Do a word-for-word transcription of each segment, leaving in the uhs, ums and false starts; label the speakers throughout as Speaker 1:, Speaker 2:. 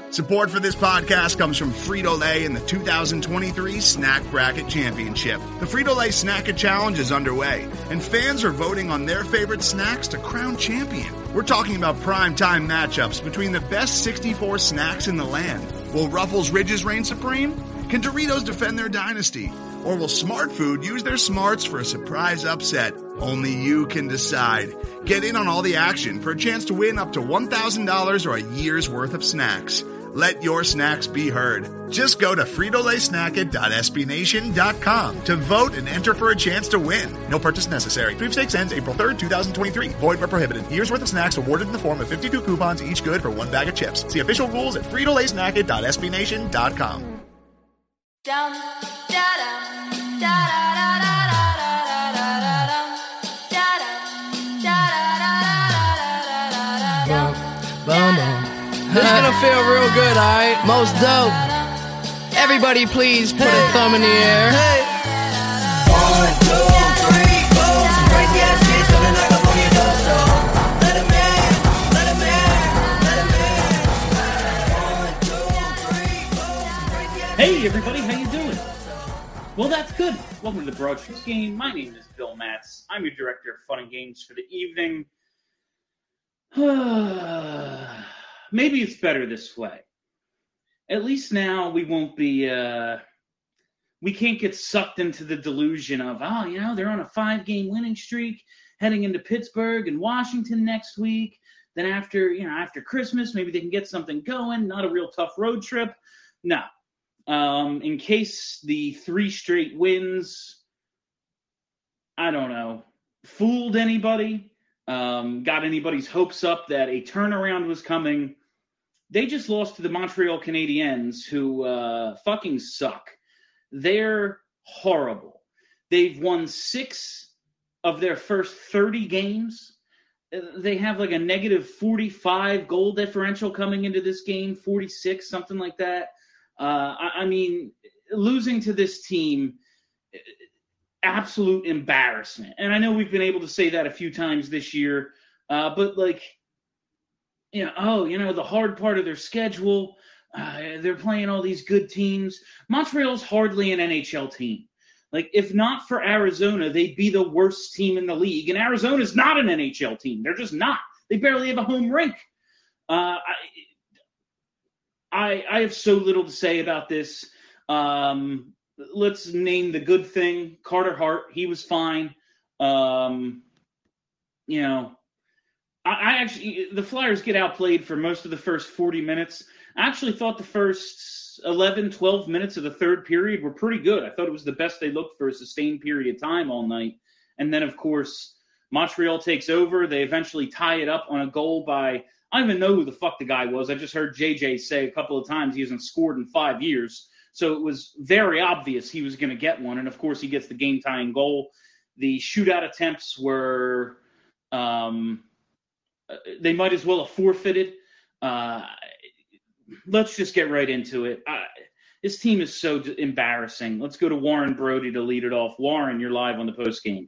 Speaker 1: Support for this podcast comes from Frito-Lay and the two thousand twenty-three Snack Bracket Championship. The Frito-Lay Snack-It Challenge is underway, and fans are voting on their favorite snacks to crown champion. We're talking about prime-time matchups between the best sixty-four snacks in the land. Will Ruffles Ridges reign supreme? Can Doritos defend their dynasty? Or will Smart Food use their smarts for a surprise upset? Only you can decide. Get in on all the action for a chance to win up to one thousand dollars or a year's worth of snacks. Let your snacks be heard. Just go to Frito Lay Snack It dot S B Nation dot com to vote and enter for a chance to win. No purchase necessary. Sweepstakes ends April third, twenty twenty-three. Void where prohibited. Year's worth of snacks awarded in the form of fifty-two coupons, each good for one bag of chips. See official rules at Frito Lay Snack It dot S B Nation dot com.
Speaker 2: Down, da, da, da, da, da,
Speaker 3: This is gonna feel real good, alright? Most dope. Everybody please put hey. a thumb in the air. Hey.
Speaker 4: One, two, three, four. Some crazy ass kids gonna knock up on your door, so let them in, let them in, let them in. One, two, three, four. Some crazy ass
Speaker 5: Hey everybody, how you doing? Well, that's good. Welcome to the Broad Street Game. My name is Bill Matz. I'm your director of fun and games for the evening. Maybe it's better this way. At least now we won't be, uh, we can't get sucked into the delusion of, oh, you know, they're on a five-game winning streak heading into Pittsburgh and Washington next week. Then after, you know, after Christmas, maybe they can get something going. Not a real tough road trip. No. Um, in case the three straight wins, I don't know, fooled anybody, um, got anybody's hopes up that a turnaround was coming. They just lost to the Montreal Canadiens, who uh, fucking suck. They're horrible. They've won six of their first thirty games. They have like a negative forty-five goal differential coming into this game, forty-six, something like that. Uh, I, I mean, losing to this team, absolute embarrassment. And I know we've been able to say that a few times this year, uh, but like, you know, oh, you know, the hard part of their schedule, uh, they're playing all these good teams. Montreal's hardly an N H L team. Like, if not for Arizona, they'd be the worst team in the league. And Arizona's not an N H L team. They're just not. They barely have a home rink. Uh, I, I, I have so little to say about this. Um, let's name the good thing. Carter Hart, he was fine. Um, you know, I, I actually, the Flyers get outplayed for most of the first forty minutes. I actually thought the first eleven, twelve minutes of the third period were pretty good. I thought it was the best they looked for a sustained period of time all night. And then, of course, Montreal takes over. They eventually tie it up on a goal by, I don't even know who the fuck the guy was. I just heard J J say a couple of times he hasn't scored in five years. So it was very obvious he was going to get one. And, of course, he gets the game-tying goal. The shootout attempts were um, – they might as well have forfeited. Uh, let's just get right into it. I, this team is so d- embarrassing. Let's go to Warren Brody to lead it off. Warren, you're live on the postgame.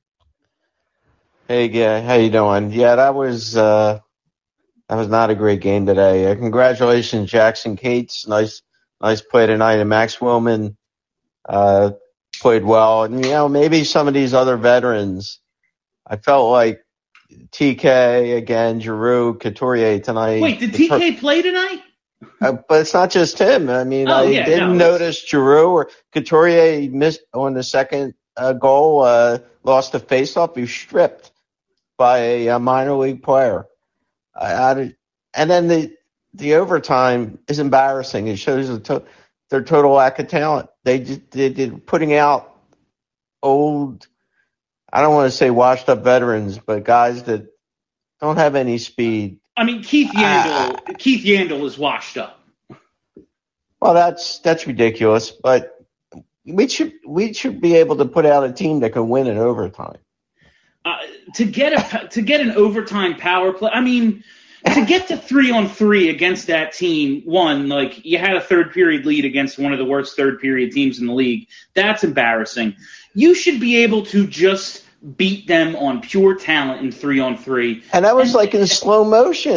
Speaker 6: Hey, yeah, how you doing? Yeah, that was uh, that was not a great game today. Uh, congratulations, Jackson Cates. Nice, nice play tonight. And Max Willman uh, played well. And you know, maybe some of these other veterans. I felt like T K again, Giroux, Couturier tonight.
Speaker 5: Wait, did T K play tonight?
Speaker 6: Uh, but it's not just him. I mean,
Speaker 5: oh,
Speaker 6: I
Speaker 5: yeah,
Speaker 6: didn't
Speaker 5: no,
Speaker 6: notice Giroux or Couturier missed on the second uh, goal, uh, lost the faceoff. He was stripped by a, a minor league player. I, I, and then the the overtime is embarrassing. It shows the to, their total lack of talent. They just, they did putting out old, I don't want to say washed up veterans, but guys that don't have any speed.
Speaker 5: I mean, Keith Yandel, uh, Keith Yandel is washed up.
Speaker 6: Well, that's that's ridiculous, but we should we should be able to put out a team that can win in overtime.
Speaker 5: Uh, to get a to get an overtime power play, I mean, to get to three on three against that team, one, like you had a third period lead against one of the worst third period teams in the league. That's embarrassing. You should be able to just beat them on pure talent in three on three.
Speaker 6: And that was and, like in slow motion.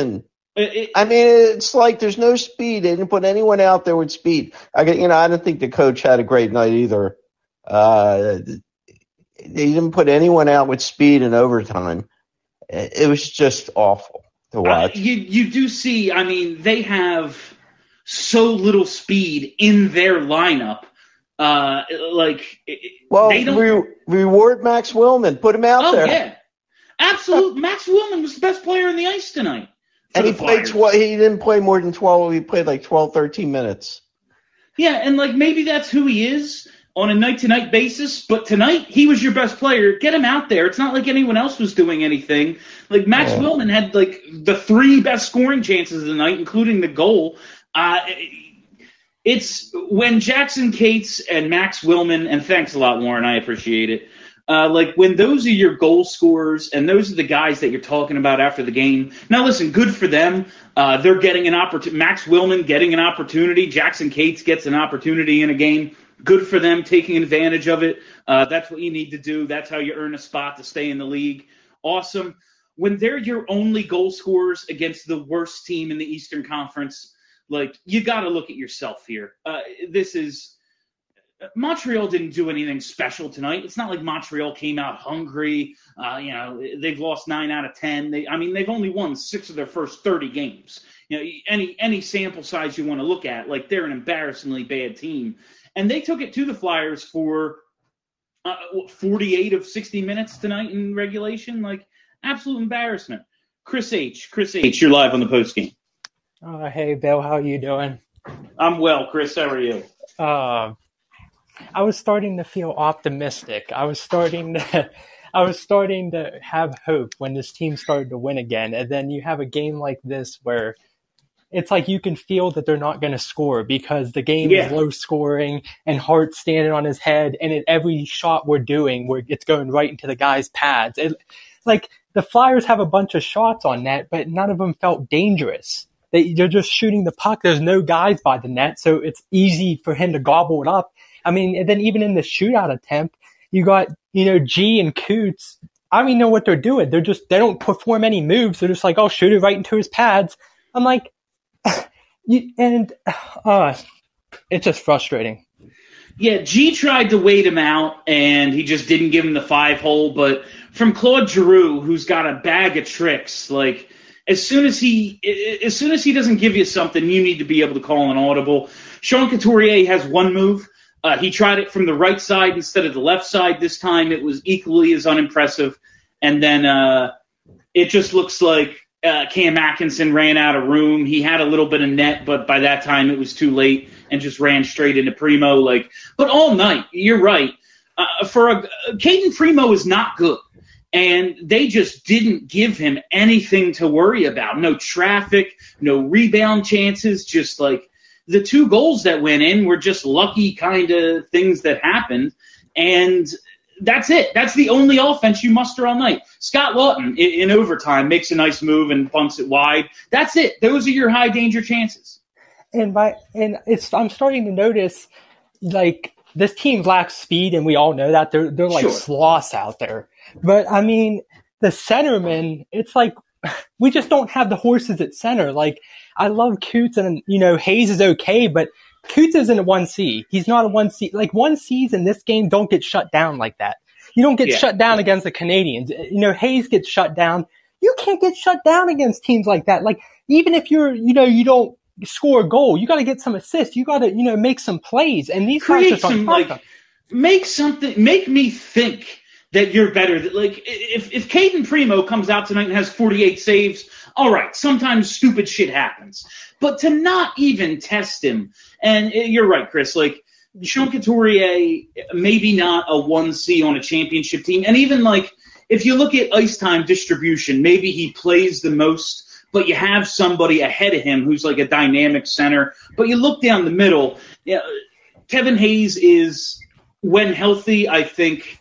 Speaker 5: It, it,
Speaker 6: I mean, it's like there's no speed. They didn't put anyone out there with speed. I get, you know, I don't think the coach had a great night either. Uh, they didn't put anyone out with speed in overtime. It was just awful to watch.
Speaker 5: Uh, you you do see. I mean, they have so little speed in their lineup. Uh, like,
Speaker 6: well,
Speaker 5: they don't
Speaker 6: re- reward Max Willman. Put him out
Speaker 5: oh,
Speaker 6: there.
Speaker 5: Oh yeah, absolute. Max Willman was the best player on the ice tonight.
Speaker 6: And he played twelve. He didn't play more than twelve. He played like twelve, thirteen minutes.
Speaker 5: Yeah, and like maybe that's who he is on a night-to-night basis. But tonight he was your best player. Get him out there. It's not like anyone else was doing anything. Like Max yeah. Willman had like the three best scoring chances of the night, including the goal. Uh, it's when Jackson Cates and Max Willman, and thanks a lot, Warren. I appreciate it. Uh, like when those are your goal scorers and those are the guys that you're talking about after the game. Now, listen, good for them. Uh, they're getting an opportunity. Max Willman getting an opportunity. Jackson Cates gets an opportunity in a game. Good for them taking advantage of it. Uh, that's what you need to do. That's how you earn a spot to stay in the league. Awesome. When they're your only goal scorers against the worst team in the Eastern Conference, like you got to look at yourself here. Uh, this is. Montreal didn't do anything special tonight. It's not like Montreal came out hungry. Uh, you know, they've lost nine out of ten. They, I mean, they've only won six of their first thirty games. You know, any any sample size you want to look at, like they're an embarrassingly bad team. And they took it to the Flyers for uh, forty-eight of sixty minutes tonight in regulation. Like, absolute embarrassment. Chris H. Chris H., you're live on the postgame.
Speaker 7: Uh, hey, Bill, how you doing?
Speaker 5: I'm well, Chris. How are you?
Speaker 7: Uh, I was starting to feel optimistic. I was starting to, I was starting to have hope when this team started to win again. And then you have a game like this where it's like you can feel that they're not going to score because the game
Speaker 5: yeah.
Speaker 7: is low scoring and Hart's standing on his head. And at every shot we're doing, where it's going right into the guy's pads. It, like the Flyers have a bunch of shots on net, but none of them felt dangerous. They, they're just shooting the puck. There's no guys by the net, so it's easy for him to gobble it up. I mean, and then even in the shootout attempt, you got, you know, G and Coots. I don't even know what they're doing. They're just, they don't perform any moves. They're just like, oh, shoot it right into his pads. I'm like, you, and uh, it's just frustrating.
Speaker 5: Yeah, G tried to wait him out, and he just didn't give him the five hole. But from Claude Giroux, who's got a bag of tricks, like as soon as he, as soon as he doesn't give you something, you need to be able to call an audible. Sean Couturier has one move. Uh, he tried it from the right side instead of the left side. This time it was equally as unimpressive. And then uh, it just looks like uh, Cam Atkinson ran out of room. He had a little bit of net, but by that time it was too late and just ran straight into Primo. Like, but all night, you're right. Uh, for a, Caden Primo is not good. And they just didn't give him anything to worry about. No traffic, no rebound chances, just like, the two goals that went in were just lucky kind of things that happened, and that's it. That's the only offense you muster all night. Scott Lawton, in, in overtime, makes a nice move and bunts it wide. That's it. Those are your high-danger chances.
Speaker 7: And by and it's I'm starting to notice, like, this team lacks speed, and we all know that. They're, they're like
Speaker 5: Sure.
Speaker 7: sloths out there. But, I mean, the centerman, it's like we just don't have the horses at center. Like, I love Coots and, you know, Hayes is okay, but Coots isn't a one C. He's not a one C. Like, one Cs in this game don't get shut down like that. You don't get
Speaker 5: Yeah.
Speaker 7: shut down against the Canadians. You know, Hayes gets shut down. You can't get shut down against teams like that. Like, even if you're, you know, you don't score a goal, you got to get some assists. You got to, you know, make some plays. And these guys
Speaker 5: Create
Speaker 7: just
Speaker 5: some,
Speaker 7: aren't
Speaker 5: like, make something, make me think that you're better. Like, if, if Caden Primo comes out tonight and has forty-eight saves, all right, sometimes stupid shit happens. But to not even test him, and you're right, Chris, like, Sean Couturier, maybe not a one C on a championship team. And even, like, if you look at ice time distribution, maybe he plays the most, but you have somebody ahead of him who's like a dynamic center. But you look down the middle, you know, Kevin Hayes is, when healthy, I think,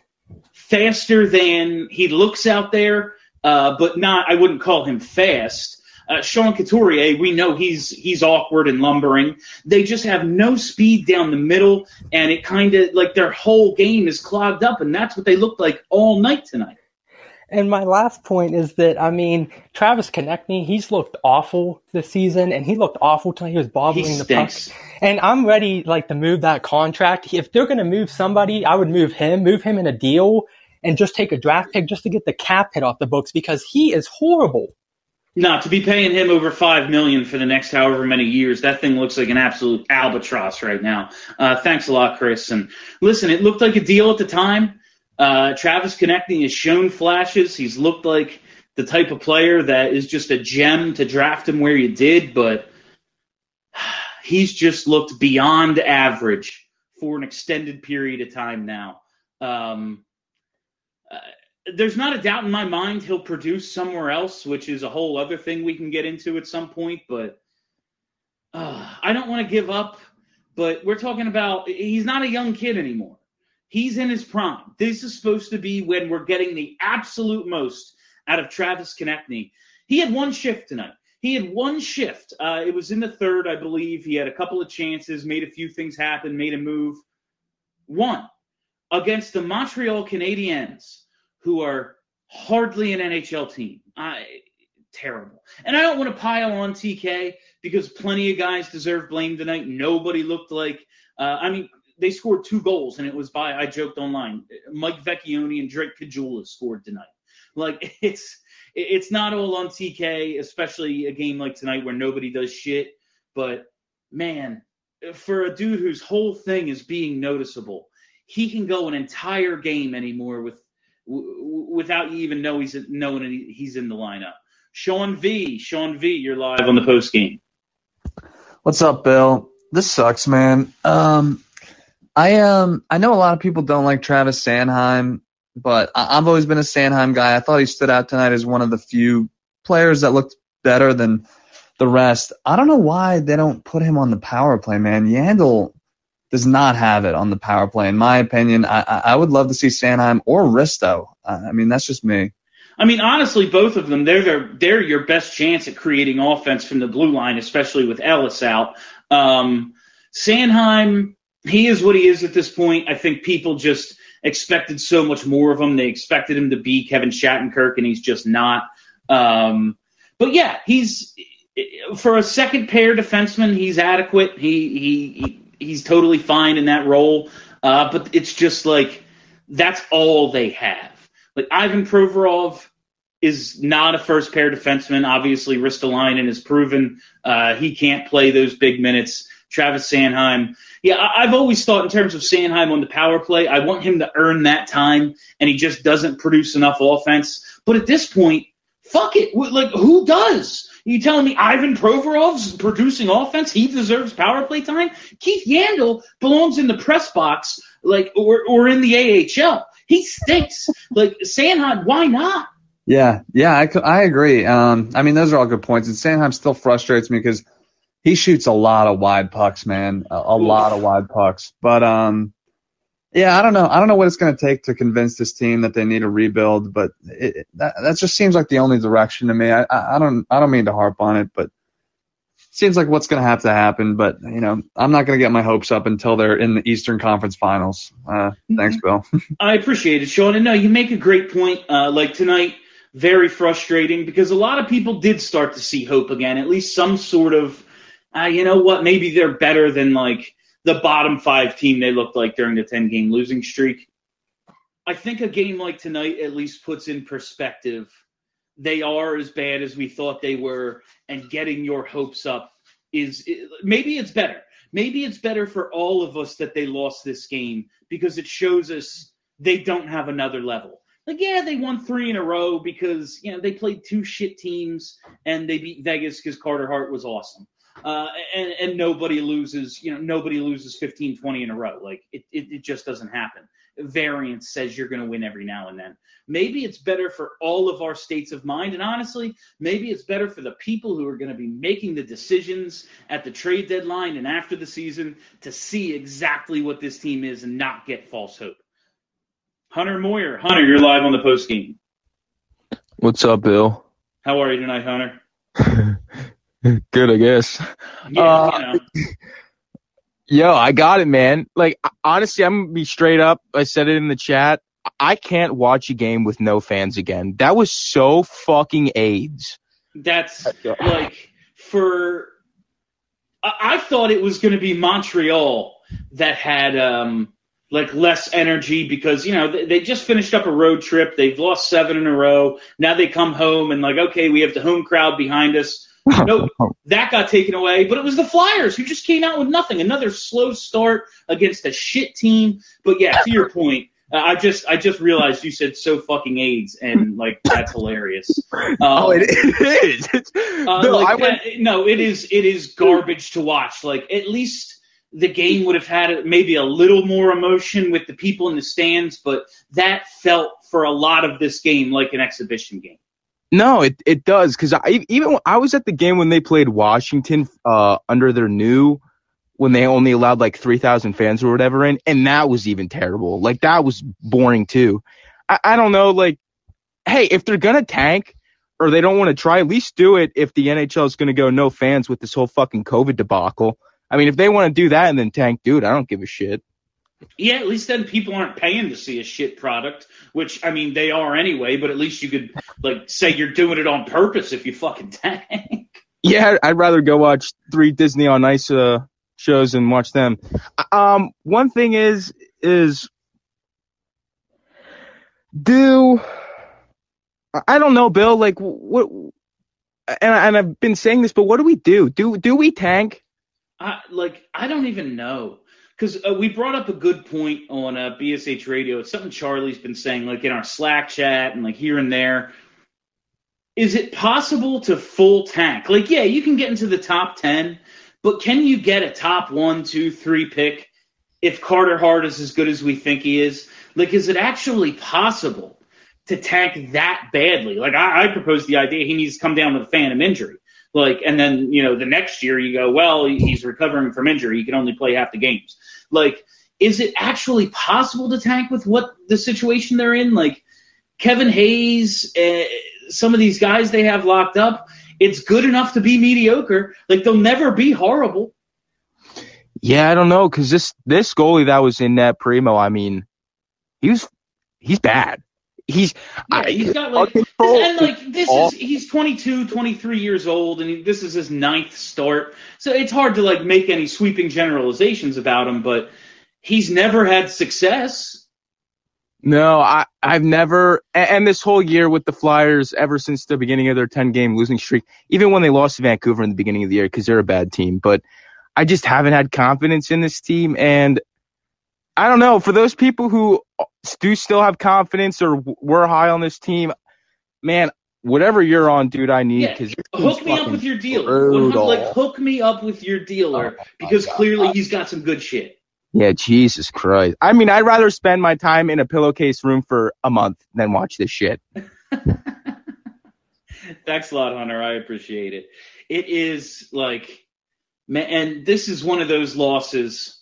Speaker 5: faster than he looks out there, uh, but not, I wouldn't call him fast. Uh, Sean Couturier, we know he's he's awkward and lumbering. They just have no speed down the middle, and it kind of, like, their whole game is clogged up, and that's what they looked like all night tonight.
Speaker 7: And my last point is that, I mean, Travis Konechny, he's looked awful this season, and he looked awful tonight. He was bobbling
Speaker 5: He
Speaker 7: the puck.
Speaker 5: stinks.
Speaker 7: And I'm ready, like, to move that contract. If they're going to move somebody, I would move him, move him in a deal, and just take a draft pick just to get the cap hit off the books because he is horrible.
Speaker 5: No, to be paying him over five million dollars for the next however many years, that thing looks like an absolute albatross right now. Uh, thanks a lot, Chris. And listen, it looked like a deal at the time. Uh, Travis Konechny has shown flashes. He's looked like the type of player that is just a gem to draft him where you did, but he's just looked beyond average for an extended period of time now. Um, uh, there's not a doubt in my mind he'll produce somewhere else, which is a whole other thing we can get into at some point, but uh, I don't want to give up, but we're talking about he's not a young kid anymore. He's in his prime. This is supposed to be when we're getting the absolute most out of Travis Konechny. He had one shift tonight. He had one shift. Uh, it was in the third, I believe. He had a couple of chances, made a few things happen, made a move. One, against the Montreal Canadiens, who are hardly an N H L team. I, terrible. And I don't want to pile on T K because plenty of guys deserve blame tonight. Nobody looked like uh, – I mean – they scored two goals, and it was by, I joked online, Mike Vecchione and Drake Caggiula scored tonight. Like, it's it's not all on T K, especially a game like tonight where nobody does shit. But, man, for a dude whose whole thing is being noticeable, he can go an entire game anymore with w- without you even know he's knowing he's in the lineup. Sean V, Sean V, you're live on the post game.
Speaker 8: What's up, Bill? This sucks, man. Um... I um I know a lot of people don't like Travis Sanheim, but I- I've always been a Sanheim guy. I thought he stood out tonight as one of the few players that looked better than the rest. I don't know why they don't put him on the power play, man. Yandel does not have it on the power play, in my opinion. I I would love to see Sanheim or Risto. I mean, that's just me.
Speaker 5: I mean, honestly, both of them, they're, they're, they're your best chance at creating offense from the blue line, especially with Ellis out. Um, Sanheim... He is what he is at this point. I think people just expected so much more of him. They expected him to be Kevin Shattenkirk, and he's just not. Um, but, yeah, he's for a second pair defenseman, he's adequate. He, he He's totally fine in that role. Uh, but it's just like that's all they have. Like Ivan Provorov is not a first pair defenseman. Obviously, Ristolainen has proven uh, he can't play those big minutes. Travis Sanheim. Yeah, I've always thought in terms of Sanheim on the power play, I want him to earn that time, and he just doesn't produce enough offense. But at this point, fuck it. Like, who does? You telling me Ivan Provorov's producing offense? He deserves power play time? Keith Yandel belongs in the press box, like, or or in the A H L. He stinks. Like, Sanheim, why not?
Speaker 8: Yeah, yeah, I, I agree. Um, I mean, those are all good points. And Sanheim still frustrates me because he shoots a lot of wide pucks, man, a, a lot of wide pucks. But, um, yeah, I don't know. I don't know what it's going to take to convince this team that they need a rebuild, but it, it, that, that just seems like the only direction to me. I, I, I don't I don't mean to harp on it, but it seems like what's going to have to happen. But, you know, I'm not going to get my hopes up until they're in the Eastern Conference Finals. Uh, thanks, Bill.
Speaker 5: I appreciate it, Sean. And no, you make a great point. Uh, like tonight, very frustrating because a lot of people did start to see hope again, at least some sort of, Uh, you know what? Maybe they're better than, like, the bottom five team they looked like during the ten-game losing streak. I think a game like tonight at least puts in perspective they are as bad as we thought they were, and getting your hopes up is – maybe it's better. Maybe it's better for all of us that they lost this game because it shows us they don't have another level. Like, yeah, they won three in a row because, you know, they played two shit teams and they beat Vegas because Carter Hart was awesome. Uh, and, and nobody loses, you know, nobody loses fifteen, twenty in a row. Like, it, it, it just doesn't happen. Variance says you're going to win every now and then. Maybe it's better for all of our states of mind. And honestly, maybe it's better for the people who are going to be making the decisions at the trade deadline and after the season to see exactly what this team is and not get false hope. Hunter Moyer. Hunter, you're live on the post game.
Speaker 9: What's up, Bill?
Speaker 5: How are you tonight, Hunter?
Speaker 9: Good, I guess.
Speaker 5: Yeah,
Speaker 9: uh,
Speaker 5: you know.
Speaker 9: Yo, I got it, man. Like, honestly, I'm going to be straight up. I said it in the chat.
Speaker 10: I can't watch a game with no fans again. That was so fucking AIDS.
Speaker 5: That's like for. I, I thought it was going to be Montreal that had um like less energy because you know they, they just finished up a road trip. They've lost seven in a row. Now they come home and like okay, we have the home crowd behind us. Nope, that got taken away. But it was the Flyers who just came out with nothing. Another slow start against a shit team. But yeah, to your point, uh, I just I just realized you said so fucking AIDS, and like that's hilarious. Um,
Speaker 10: oh, it, it is. It's,
Speaker 5: uh,
Speaker 10: no,
Speaker 5: like,
Speaker 10: I went,
Speaker 5: uh, no, it is it is garbage to watch. Like at least the game would have had maybe a little more emotion with the people in the stands, but that felt for a lot of this game like an exhibition game.
Speaker 10: No, it it does because I even I was at the game when they played Washington uh, under their new when they only allowed like three thousand fans or whatever in, and that was even terrible. Like that was boring too. I, I don't know. Like, hey, if they're gonna tank or they don't want to try, at least do it. If the N H L is gonna go no fans with this whole fucking COVID debacle, I mean, if they want to do that and then tank, dude, I don't give a shit.
Speaker 5: Yeah, at least then people aren't paying to see a shit product, which, I mean, they are anyway, but at least you could, like, say you're doing it on purpose if you fucking tank.
Speaker 10: Yeah, I'd rather go watch three Disney on Ice uh, shows and watch them. Um, one thing is, is do, I don't know, Bill, like, what, and, and I've been saying this, but what do we do? Do, do we tank?
Speaker 5: Uh, like, I don't even know. Because uh, we brought up a good point on uh, B S H Radio. It's something Charlie's been saying, like in our Slack chat and like here and there. Is it possible to full tank? Like, yeah, you can get into the top ten, but can you get a top one, two, three pick if Carter Hart is as good as we think he is? Like, is it actually possible to tank that badly? Like, I, I proposed the idea he needs to come down with a phantom injury. Like, and then, you know, the next year you go, well, he's recovering from injury. He can only play half the games. Like, is it actually possible to tank with what the situation they're in? Like, Kevin Hayes, uh, some of these guys they have locked up, it's good enough to be mediocre. Like, they'll never be horrible.
Speaker 10: Yeah, I don't know, because this, this goalie that was in net, Primo, I mean, he was, he's bad. He's
Speaker 5: yeah, he's got like and like this is he's twenty-two, twenty-three years old, and he, this is his ninth start. So it's hard to like make any sweeping generalizations about him, but he's never had success.
Speaker 10: No, I I've never and this whole year with the Flyers ever since the beginning of their ten game losing streak, even when they lost to Vancouver in the beginning of the year because they're a bad team, but I just haven't had confidence in this team. And I don't know, for those people who do still have confidence or were high on this team, man, whatever you're on, dude, I need.
Speaker 5: Yeah,
Speaker 10: Cause
Speaker 5: hook me up with your dealer. Like, hook me up with your dealer oh because God. Clearly he's got some good shit.
Speaker 10: Yeah, Jesus Christ. I mean, I'd rather spend my time in a pillowcase room for a month than watch this shit.
Speaker 5: Thanks a lot, Hunter. I appreciate it. It is like, man, and this is one of those losses.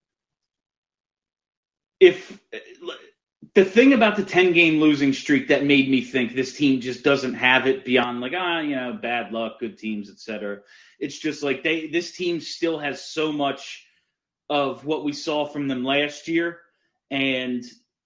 Speaker 5: If the thing about the ten game losing streak that made me think this team just doesn't have it beyond like, ah, you know, bad luck, good teams, et cetera. It's just like they, this team still has so much of what we saw from them last year. And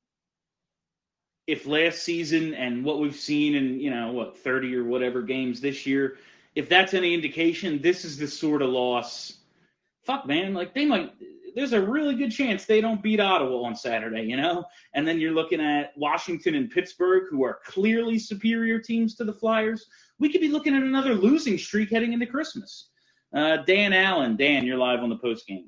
Speaker 5: if last season and what we've seen in, you know, what, thirty or whatever games this year, if that's any indication, this is the sort of loss. Fuck, man, like they might, there's a really good chance they don't beat Ottawa on Saturday, you know? And then you're looking at Washington and Pittsburgh, who are clearly superior teams to the Flyers. We could be looking at another losing streak heading into Christmas. Uh, Dan Allen, Dan, you're live on the post game.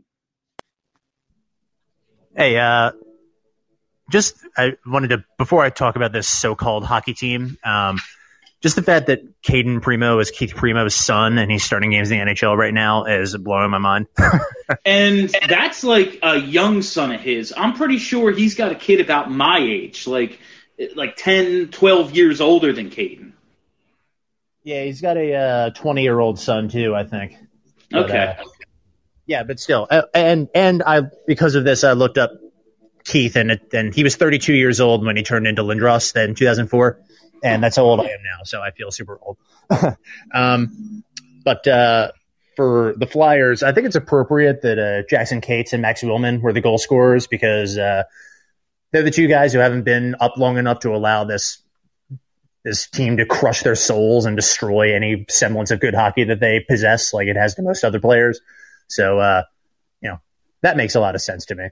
Speaker 11: Hey, uh, just I wanted to, before I talk about this so-called hockey team, um, just the fact that Caden Primo is Keith Primo's son and he's starting games in the N H L right now is blowing my mind.
Speaker 5: And that's like a young son of his. I'm pretty sure he's got a kid about my age, like like ten, twelve years older than Caden.
Speaker 11: Yeah, he's got a uh, twenty-year-old son too, I think. But,
Speaker 5: okay.
Speaker 11: Uh, yeah, but still, uh, and and I because of this, I looked up Keith, and it, and he was thirty-two years old when he turned into Lindros in two thousand four. And that's how old I am now, so I feel super old. um, but uh, for the Flyers, I think it's appropriate that uh, Jackson Cates and Max Willman were the goal scorers because uh, they're the two guys who haven't been up long enough to allow this this team to crush their souls and destroy any semblance of good hockey that they possess, like it has to most other players. So, uh, you know, that makes a lot of sense to me.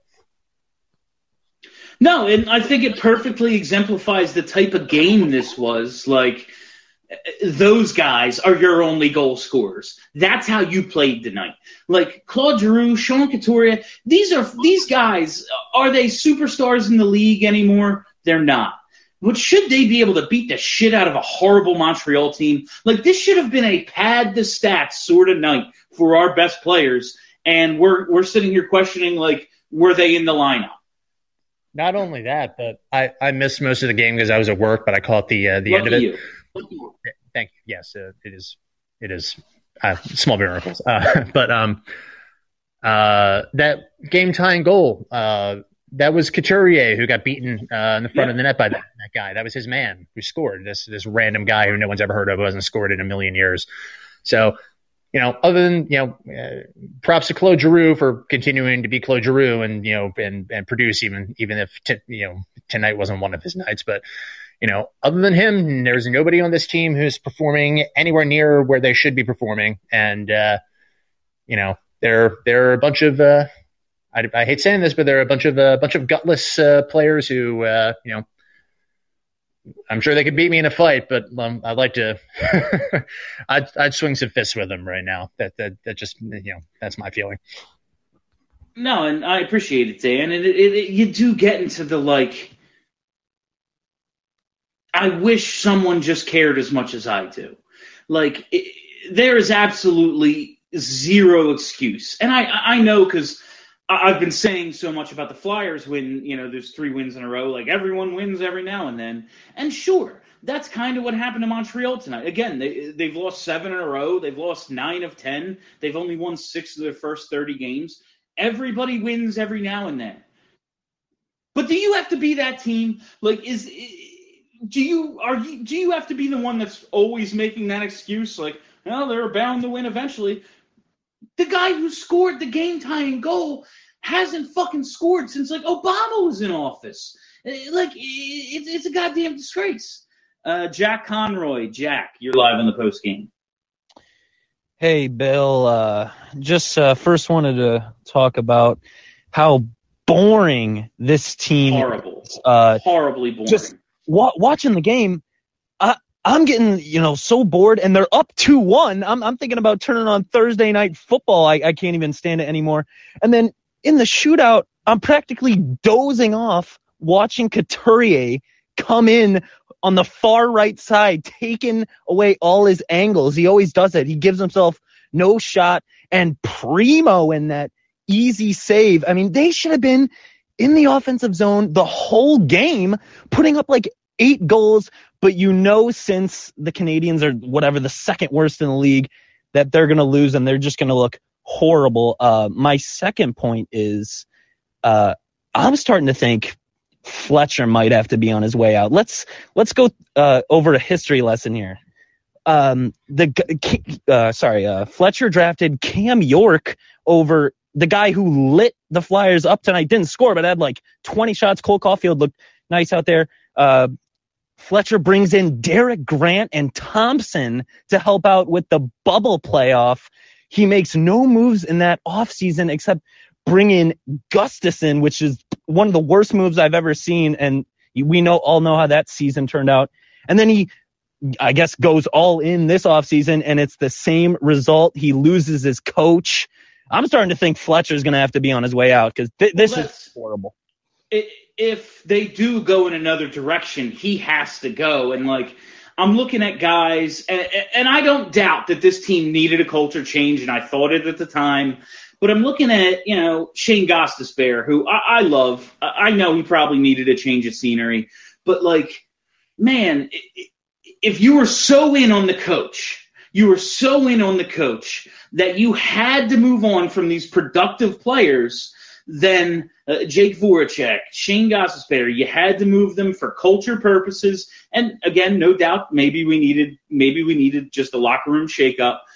Speaker 5: No, and I think it perfectly exemplifies the type of game this was. Like, those guys are your only goal scorers. That's how you played tonight. Like Claude Giroux, Sean Couturier, these are these guys. Are they superstars in the league anymore? They're not. But should they be able to beat the shit out of a horrible Montreal team? Like, this should have been a pad the stats sort of night for our best players, and we're we're sitting here questioning, like, were they in the lineup?
Speaker 11: Not only that, but I, I missed most of the game because I was at work, but I caught the uh, the
Speaker 5: Lucky
Speaker 11: end of it.
Speaker 5: you.
Speaker 11: Thank you. Yes, uh, it is. It is uh, small miracles. Uh, but um, uh, that game tying goal, uh, that was Couturier who got beaten uh, in the front
Speaker 5: Yeah.
Speaker 11: of the net by that, that guy. That was his man who scored. This this random guy who no one's ever heard of, who hasn't scored in a million years. So, you know, other than, you know, uh, props to Claude Giroux for continuing to be Claude Giroux and, you know, and, and produce even even if t- you know tonight wasn't one of his nights, but. You know, other than him, there's nobody on this team who's performing anywhere near where they should be performing. And, uh, you know, they're, they're a bunch of, uh, I, I hate saying this, but they're a bunch of, a uh, bunch of gutless, uh, players who, uh, you know, I'm sure they could beat me in a fight, but um, I'd like to, I'd, I'd swing some fists with them right now. That, that, that just, you know, that's my feeling.
Speaker 5: No, and I appreciate it, Dan. And it, it, it, you do get into the, like, I wish someone just cared as much as I do. Like, it, there is absolutely zero excuse. And I, I know because I've been saying so much about the Flyers when, you know, there's three wins in a row. Like, everyone wins every now and then. And sure, that's kind of what happened to Montreal tonight. Again, they, they've lost seven in a row. They've lost nine of ten. They've only won six of their first thirty games. Everybody wins every now and then. But do you have to be that team? Like, is... Do you are you do you have to be the one that's always making that excuse? Like, well, they're bound to win eventually. The guy who scored the game-tying goal hasn't fucking scored since, like, Obama was in office. Like, it's it's a goddamn disgrace. Uh, Jack Conroy, Jack, you're live on the post game.
Speaker 12: Hey, Bill. Uh, just uh, first wanted to talk about how boring this team
Speaker 5: Horrible.
Speaker 12: is. Uh,
Speaker 5: Horribly boring.
Speaker 12: Just wa- watching the game, I, I'm getting, you know, so bored, and they're up two one. I'm, I'm thinking about turning on Thursday Night Football. I, I can't even stand it anymore. And then in the shootout, I'm practically dozing off watching Couturier come in on the far right side, taking away all his angles. He always does it. He gives himself no shot. And Primo in that easy save. I mean, they should have been in the offensive zone the whole game, putting up like eight goals. But you know, since the Canadians are whatever the second worst in the league, that they're going to lose and they're just going to look horrible. Uh, my second point is uh, I'm starting to think Fletcher might have to be on his way out. Let's let's go uh, over a history lesson here. Um, the uh, sorry, uh, Fletcher drafted Cam York over the guy who lit the Flyers up tonight. Didn't score, but had like twenty shots. Cole Caulfield looked nice out there. Uh, Fletcher brings in Derek Grant and Thompson to help out with the bubble playoff. He makes no moves in that offseason except bring in Gustafson, which is one of the worst moves I've ever seen. And we know all know how that season turned out. And then he, I guess, goes all in this offseason, and it's the same result. He loses his coach. I'm starting to think Fletcher's going to have to be on his way out because th- this
Speaker 5: well,
Speaker 12: is horrible.
Speaker 5: If they do go in another direction, he has to go. And, like, I'm looking at guys, and, and I don't doubt that this team needed a culture change, and I thought it at the time. But I'm looking at, you know, Shane Gostisbehere, who I, I love. I know he probably needed a change of scenery. But, like, man, if you were so in on the coach, you were so in on the coach that you had to move on from these productive players, then uh, Jake Voracek, Shane Gostisbehere, you had to move them for culture purposes. And, again, no doubt maybe we needed maybe we needed just a locker room shakeup.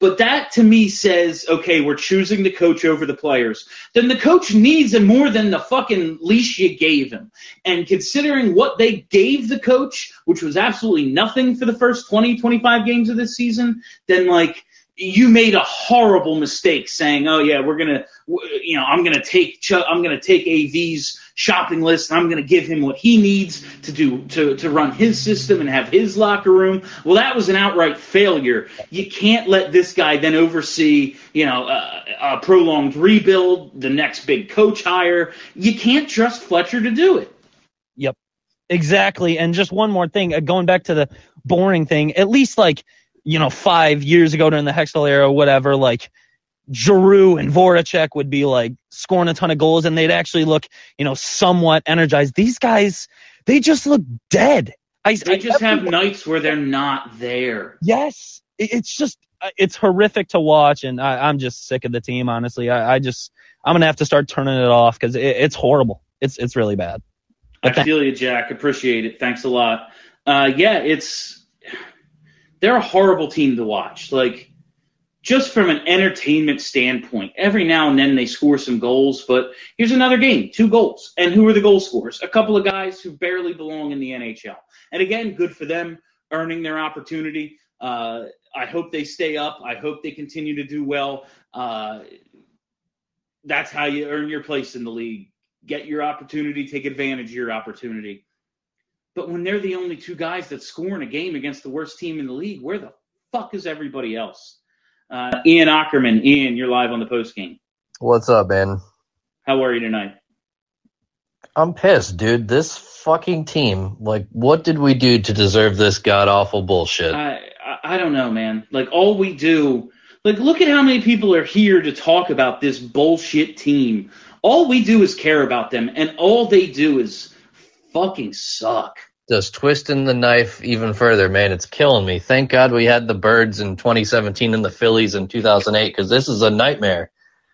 Speaker 5: But that to me says, okay, we're choosing the coach over the players. Then the coach needs him more than the fucking leash you gave him. And considering what they gave the coach, which was absolutely nothing for the first twenty, twenty-five games of this season, then like you made a horrible mistake saying, oh yeah, we're going to, you know, I'm going to take, Ch- I'm going to take A V's shopping list and I'm going to give him what he needs to do to, to run his system and have his locker room. Well, that was an outright failure. You can't let this guy then oversee, you know, a, a prolonged rebuild, the next big coach hire. You can't trust Fletcher to do it.
Speaker 12: Yep, exactly. And just one more thing, uh, going back to the boring thing, at least like, you know, five years ago during the Hextall era, whatever, like Giroux and Voracek would be like scoring a ton of goals and they'd actually look, you know, somewhat energized. These guys, they just look dead. I,
Speaker 5: They
Speaker 12: I,
Speaker 5: just have
Speaker 12: everyone-
Speaker 5: nights where they're not there.
Speaker 12: Yes, it- it's just, uh, it's horrific to watch, and I, I'm just sick of the team, honestly. I, I just, I'm going to have to start turning it off because it, it's horrible. It's it's really bad.
Speaker 5: I feel you, Jack. Appreciate it. Thanks a lot. Uh, yeah, it's they're a horrible team to watch. Like, just from an entertainment standpoint, every now and then they score some goals, but here's another game, two goals. And who are the goal scorers? A couple of guys who barely belong in the N H L. And again, good for them, earning their opportunity. Uh, I hope they stay up. I hope they continue to do well. Uh, that's how you earn your place in the league. Get your opportunity, take advantage of your opportunity. But when they're the only two guys that score in a game against the worst team in the league, where the fuck is everybody else? Uh, Ian Ackerman. Ian, you're live on the post game.
Speaker 13: What's up, man?
Speaker 5: How are you tonight?
Speaker 13: I'm pissed, dude. This fucking team, like, what did we do to deserve this god-awful bullshit?
Speaker 5: I, I I don't know, man. Like, all we do, like, look at how many people are here to talk about this bullshit team. All we do is care about them, and all they do is fucking suck.
Speaker 13: Just twisting the knife even further, man. It's killing me. Thank God we had the Birds in twenty seventeen and the Phillies in two thousand eight, because this is a nightmare.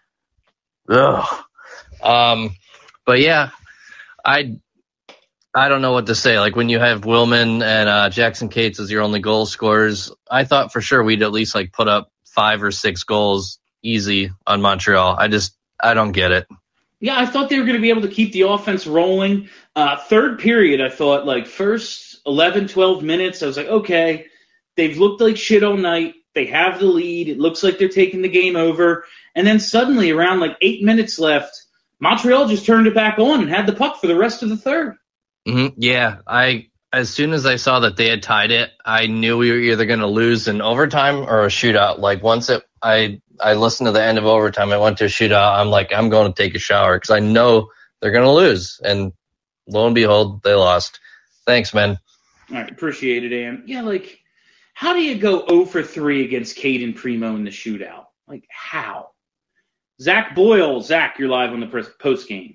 Speaker 13: Ugh. Um, but yeah, I I don't know what to say. Like, when you have Willman and uh, Jackson Cates as your only goal scorers, I thought for sure we'd at least like put up five or six goals easy on Montreal. I just I don't get it.
Speaker 5: Yeah, I thought they were going to be able to keep the offense rolling. Uh, third period, I thought, like, first eleven, twelve minutes, I was like, okay, they've looked like shit all night. They have the lead. It looks like they're taking the game over. And then suddenly, around like eight minutes left, Montreal just turned it back on and had the puck for the rest of the third.
Speaker 13: Mm-hmm. Yeah, I as soon as I saw that they had tied it, I knew we were either going to lose in overtime or a shootout. Like, once it, I I listened to the end of overtime, I went to a shootout. I'm like, I'm going to take a shower because I know they're going to lose. And lo and behold, they lost. Thanks, man.
Speaker 5: All right, appreciate it, Ann. Yeah, like, how do you go oh for three against Caden Primo in the shootout? Like, how? Zach Boyle. Zach, you're live on the post game.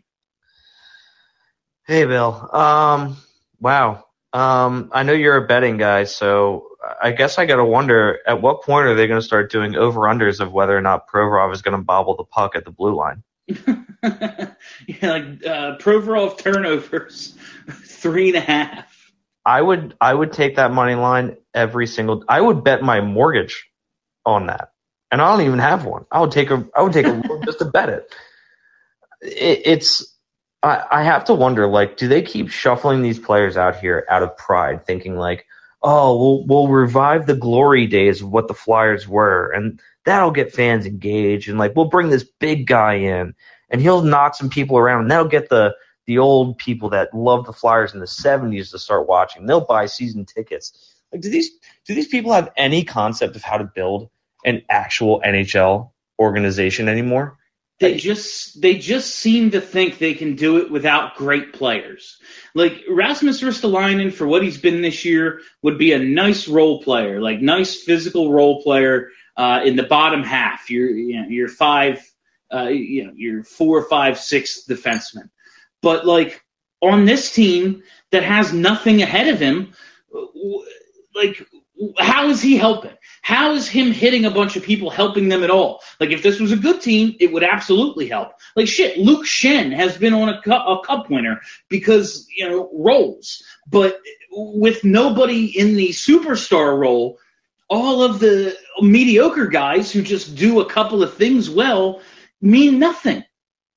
Speaker 14: Hey, Bill. Um, wow. Um, I know you're a betting guy, so I guess I got to wonder, at what point are they going to start doing over-unders of whether or not Provorov is going to bobble the puck at the blue line?
Speaker 5: Yeah, like uh, Provorov turnovers, three and a half.
Speaker 14: I would I would take that money line every single – I would bet my mortgage on that. And I don't even have one. I would take a I would take a loan just to bet it. it it's – I, I have to wonder, like, do they keep shuffling these players out here out of pride, thinking like, oh, we'll we'll revive the glory days of what the Flyers were, and that'll get fans engaged, and like we'll bring this big guy in, and he'll knock some people around, and that'll get the the old people that loved the Flyers in the seventies to start watching. They'll buy season tickets. Like, do these do these people have any concept of how to build an actual N H L organization anymore?
Speaker 5: They just they just seem to think they can do it without great players. Like, Rasmus Ristolainen, for what he's been this year, would be a nice role player, like nice physical role player uh, in the bottom half. You're you know, you're five, uh, you know, you're four, five, six defenseman. But like on this team that has nothing ahead of him, like, how is he helping? How is him hitting a bunch of people helping them at all? Like, if this was a good team, it would absolutely help. Like, shit, Luke Shen has been on a cup, a cup winner because, you know, roles. But with nobody in the superstar role, all of the mediocre guys who just do a couple of things well mean nothing.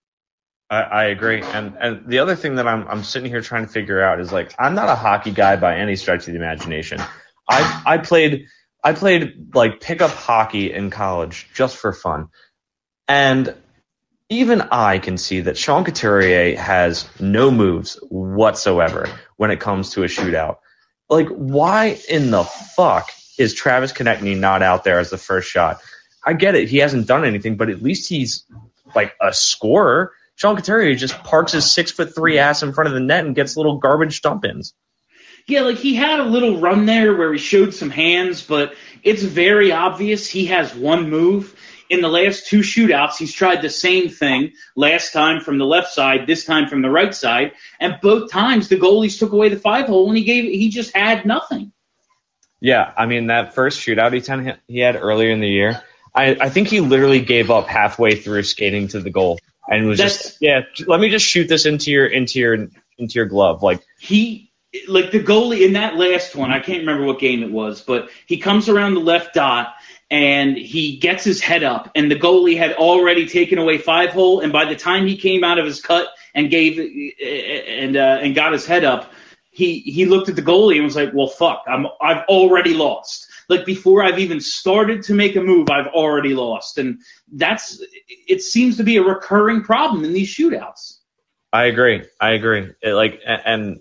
Speaker 14: I, I agree. And and the other thing that I'm I'm sitting here trying to figure out is, like, I'm not a hockey guy by any stretch of the imagination. I I played I played like pickup hockey in college just for fun. And even I can see that Sean Couturier has no moves whatsoever when it comes to a shootout. Like, why in the fuck is Travis Konechny not out there as the first shot? I get it. He hasn't done anything, but at least he's like a scorer. Sean Couturier just parks his six foot three ass in front of the net and gets little garbage dump ins.
Speaker 5: Yeah, like he had a little run there where he showed some hands, but it's very obvious he has one move. In the last two shootouts, he's tried the same thing, last time from the left side, this time from the right side, and both times the goalies took away the five hole and he gave he just had nothing.
Speaker 14: Yeah, I mean, that first shootout he, ten, he had earlier in the year, I, I think he literally gave up halfway through skating to the goal and was
Speaker 5: That's,
Speaker 14: just, yeah, let me just shoot this into your into your into your glove. Like
Speaker 5: he like the goalie in that last one, I can't remember what game it was, but he comes around the left dot and he gets his head up, and the goalie had already taken away five hole, and by the time he came out of his cut and gave and uh, and got his head up, he he looked at the goalie and was like, "Well, fuck, I'm I've already lost. Like before I've even started to make a move, I've already lost." And that's it seems to be a recurring problem in these shootouts.
Speaker 14: I agree. I agree. It, like, and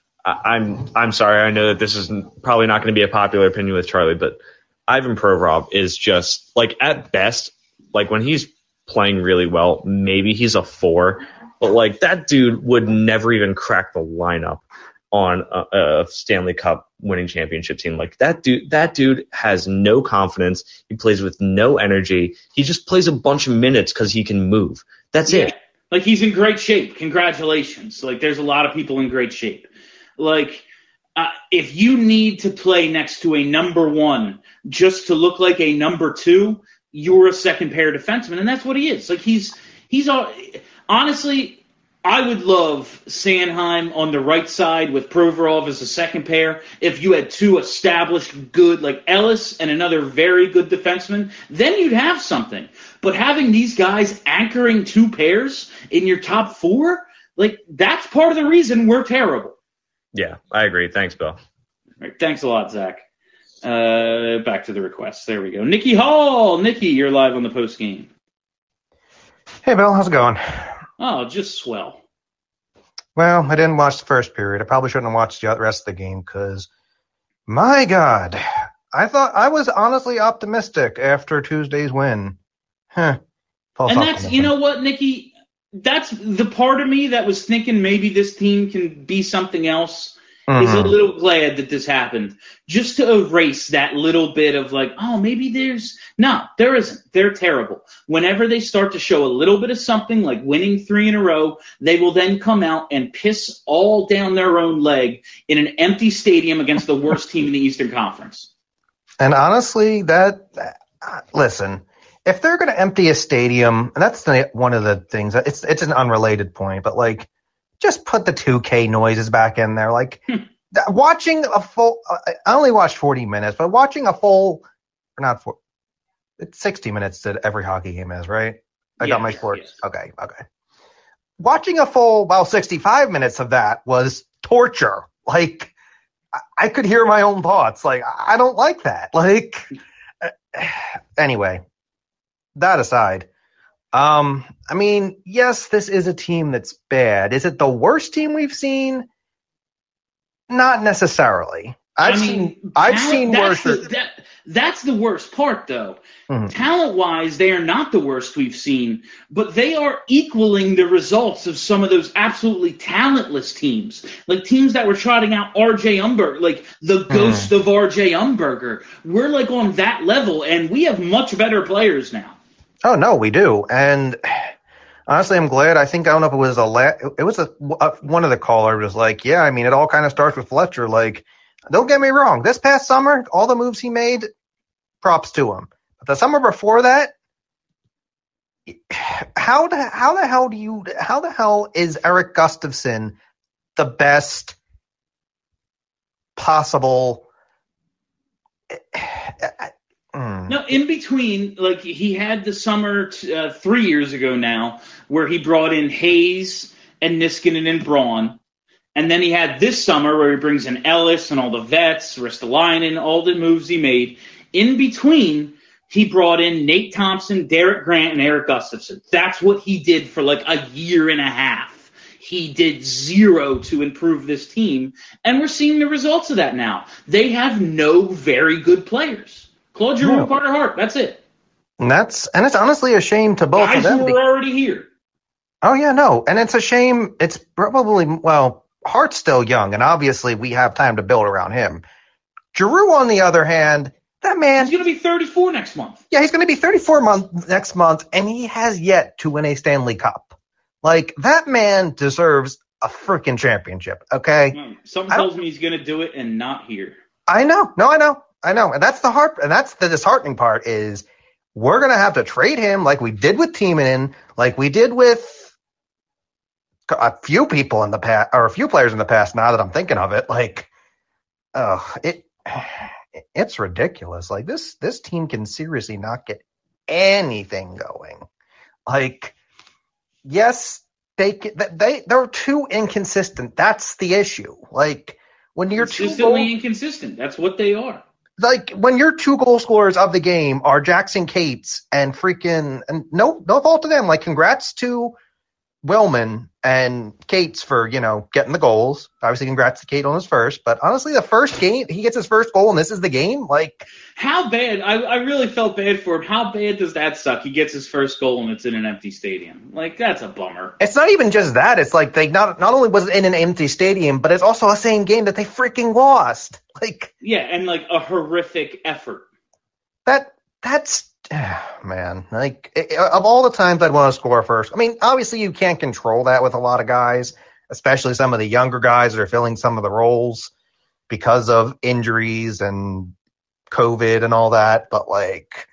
Speaker 14: I'm I'm sorry. I know that this is probably not going to be a popular opinion with Charlie, but Ivan Provorov is just, like, at best, like, when he's playing really well, maybe he's a four. But, like, that dude would never even crack the lineup on a, a Stanley Cup winning championship team. Like, that dude, that dude has no confidence. He plays with no energy. He just plays a bunch of minutes because he can move. That's
Speaker 5: yeah.
Speaker 14: it.
Speaker 5: Like, he's in great shape. Congratulations. Like, there's a lot of people in great shape. Like, uh, if you need to play next to a number one just to look like a number two, you're a second pair defenseman, and that's what he is. Like, he's he's all, honestly, I would love Sanheim on the right side with Provorov as a second pair. If you had two established good, like Ellis and another very good defenseman, then you'd have something. But having these guys anchoring two pairs in your top four, like, that's part of the reason we're terrible.
Speaker 14: Yeah, I agree. Thanks, Bill.
Speaker 5: All right, thanks a lot, Zach. Uh, back to the requests. There we go. Nikki Hall. Nikki, you're live on the post game.
Speaker 15: Hey, Bill. How's it going?
Speaker 5: Oh, just swell.
Speaker 15: Well, I didn't watch the first period. I probably shouldn't have watched the rest of the game because, my God, I thought I was honestly optimistic after Tuesday's win. Huh. False
Speaker 5: And that's,
Speaker 15: optimism.
Speaker 5: you know what, Nikki? That's the part of me that was thinking maybe this team can be something else.
Speaker 15: Mm-hmm.
Speaker 5: Is a little glad that this happened, just to erase that little bit of like, oh, maybe there's no, there isn't. They're terrible. Whenever they start to show a little bit of something, like winning three in a row, they will then come out and piss all down their own leg in an empty stadium against the worst team in the Eastern Conference.
Speaker 15: And honestly, that uh, listen, if they're going to empty a stadium, and that's the, one of the things. It's it's an unrelated point, but like, just put the two K noises back in there. Like, th- watching a full, uh, I only watched forty minutes, but watching a full, or not four, it's sixty minutes that every hockey game is, right? I
Speaker 5: Yeah,
Speaker 15: got my sports. Yeah. Okay, okay. Watching a full, well, sixty-five minutes of that was torture. Like, I, I could hear my own thoughts. Like, I don't like that. Like, uh, anyway, that aside. Um, I mean, yes, this is a team that's bad. Is it the worst team we've seen? Not necessarily. I've
Speaker 5: I mean,
Speaker 15: seen I've
Speaker 5: talent,
Speaker 15: seen
Speaker 5: that's
Speaker 15: worse.
Speaker 5: The, that, that's the worst part, though.
Speaker 15: Mm-hmm.
Speaker 5: Talent-wise, they are not the worst we've seen, but they are equaling the results of some of those absolutely talentless teams, like teams that were trotting out R J Umberger, like the ghost mm. of R J Umberger. We're like on that level, and we have much better players now.
Speaker 15: Oh no, we do, and honestly, I'm glad. I think I don't know if it was a la- it was a, a one of the callers was like, yeah, I mean, it all kind of starts with Fletcher. Like, don't get me wrong, this past summer, all the moves he made, props to him. But the summer before that, how the how the hell do you how the hell is Eric Gustafsson the best possible?
Speaker 5: No, in between, like he had the summer t- uh, three years ago now, where he brought in Hayes and Niskanen and Braun, and then he had this summer where he brings in Ellis and all the vets, Ristolainen, all the moves he made. In between, he brought in Nate Thompson, Derek Grant, and Eric Gustafson. That's what he did for like a year and a half. He did zero to improve this team, and we're seeing the results of that now. They have no very good players. Claude Giroux,
Speaker 15: No.
Speaker 5: Carter Hart, that's it.
Speaker 15: And that's and it's honestly a shame to both
Speaker 5: Guys
Speaker 15: of them.
Speaker 5: who
Speaker 15: be-
Speaker 5: are already here.
Speaker 15: Oh yeah, no, and it's a shame. It's probably well, Hart's still young, and obviously we have time to build around him. Giroux, on the other hand, that man,
Speaker 5: He's going to be thirty-four next month.
Speaker 15: yeah, he's going to be thirty-four month next month, and he has yet to win a Stanley Cup. Like that man deserves a freaking championship. Okay,
Speaker 5: No, Something
Speaker 15: I don't-
Speaker 5: tells me he's going to do it and not here.
Speaker 15: I know, no, I know, I know, and that's the heart, and that's the disheartening part is we're gonna have to trade him like we did with Timonen, like we did with a few people in the past, or a few players in the past. Now that I'm thinking of it, like, oh, it, it's ridiculous. Like this, this team can seriously not get anything going. Like, yes, they ca- they they're too inconsistent. That's the issue. Like when you're too
Speaker 5: Consistently
Speaker 15: goal-
Speaker 5: inconsistent. That's what they are.
Speaker 15: like when your two goal scorers of the game are Jackson Cates and freaking and no no fault to them. Like congrats to Willman and Cates for, you know, getting the goals. Obviously congrats to Cate on his first, but honestly the first game he gets his first goal and this is the game. Like
Speaker 5: How bad? I, I really felt bad for him. How bad does that suck? He gets his first goal and it's in an empty stadium. Like that's a bummer.
Speaker 15: it's not even just that. It's like they not not only was it in an empty stadium, but it's also a same game that they freaking lost. Like
Speaker 5: Yeah, and like a horrific effort.
Speaker 15: that that's man, like i- of all the times I'd want to score first. I mean, obviously you can't control that with a lot of guys, especially some of the younger guys that are filling some of the roles because of injuries and COVID and all that. But like,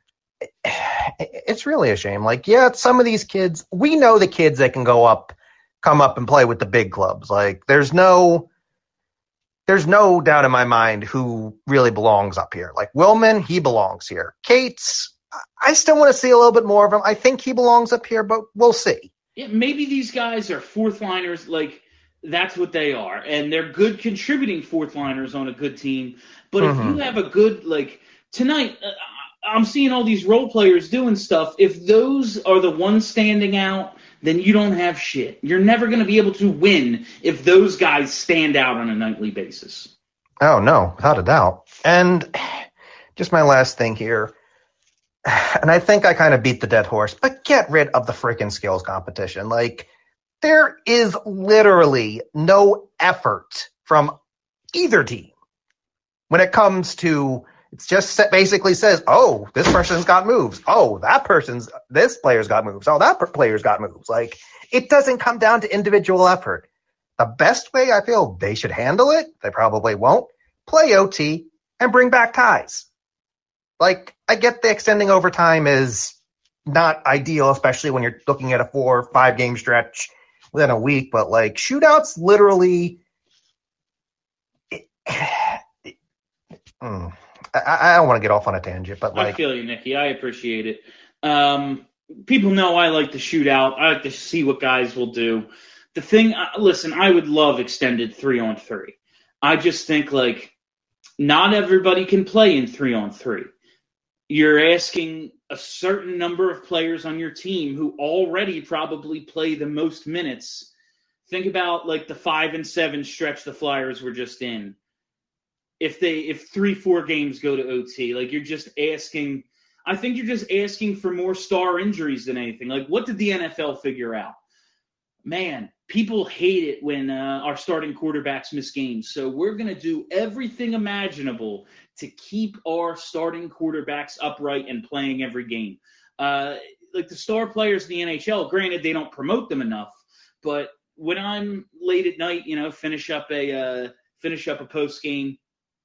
Speaker 15: it's really a shame. Like, yeah, some of these kids, we know the kids that can go up, come up and play with the big clubs. Like, there's no. There's no doubt in my mind who really belongs up here. Like Willman, he belongs here. Cates, I still want to see a little bit more of him. I think he belongs up here, but we'll see.
Speaker 5: Yeah, maybe these guys are fourth liners. Like that's what they are, and they're good contributing fourth liners on a good team. But if
Speaker 15: Mhm.
Speaker 5: you have a good like tonight, uh, I'm seeing all these role players doing stuff. If those are the ones standing out, then you don't have shit. You're never going to be able to win if those guys stand out on a nightly basis.
Speaker 15: Oh, no, without a doubt. And just my last thing here, and I think I kind of beat the dead horse, but get rid of the freaking skills competition. Like, there is literally no effort from either team when it comes to. It's just sa- basically says, oh, this person's got moves. Oh, that person's, this player's got moves. Oh, that per- player's got moves. Like, it doesn't come down to individual effort. The best way I feel they should handle it, they probably won't, play O T and bring back ties. Like, I get the extending overtime is not ideal, especially when you're looking at a four or five game stretch within a week, but like, shootouts literally. Mm. I, I don't want to get off on a tangent, but
Speaker 5: I
Speaker 15: like,
Speaker 5: feel you, Nikki. I appreciate it. Um, people know I like to shoot out. I like to see what guys will do. The thing, uh, listen, I would love extended three on three. I just think like not everybody can play in three on three. You're asking a certain number of players on your team who already probably play the most minutes. Think about like the five and seven stretch the Flyers were just in. If they if three, four games go to O T, like you're just asking I think you're just asking for more star injuries than anything. Like what did the N F L figure out? Man, people hate it when uh, our starting quarterbacks miss games. So we're going to do everything imaginable to keep our starting quarterbacks upright and playing every game. Uh, like the star players in the N H L, granted they don't promote them enough, but when I'm late at night, you know, finish up a uh, finish up a post game,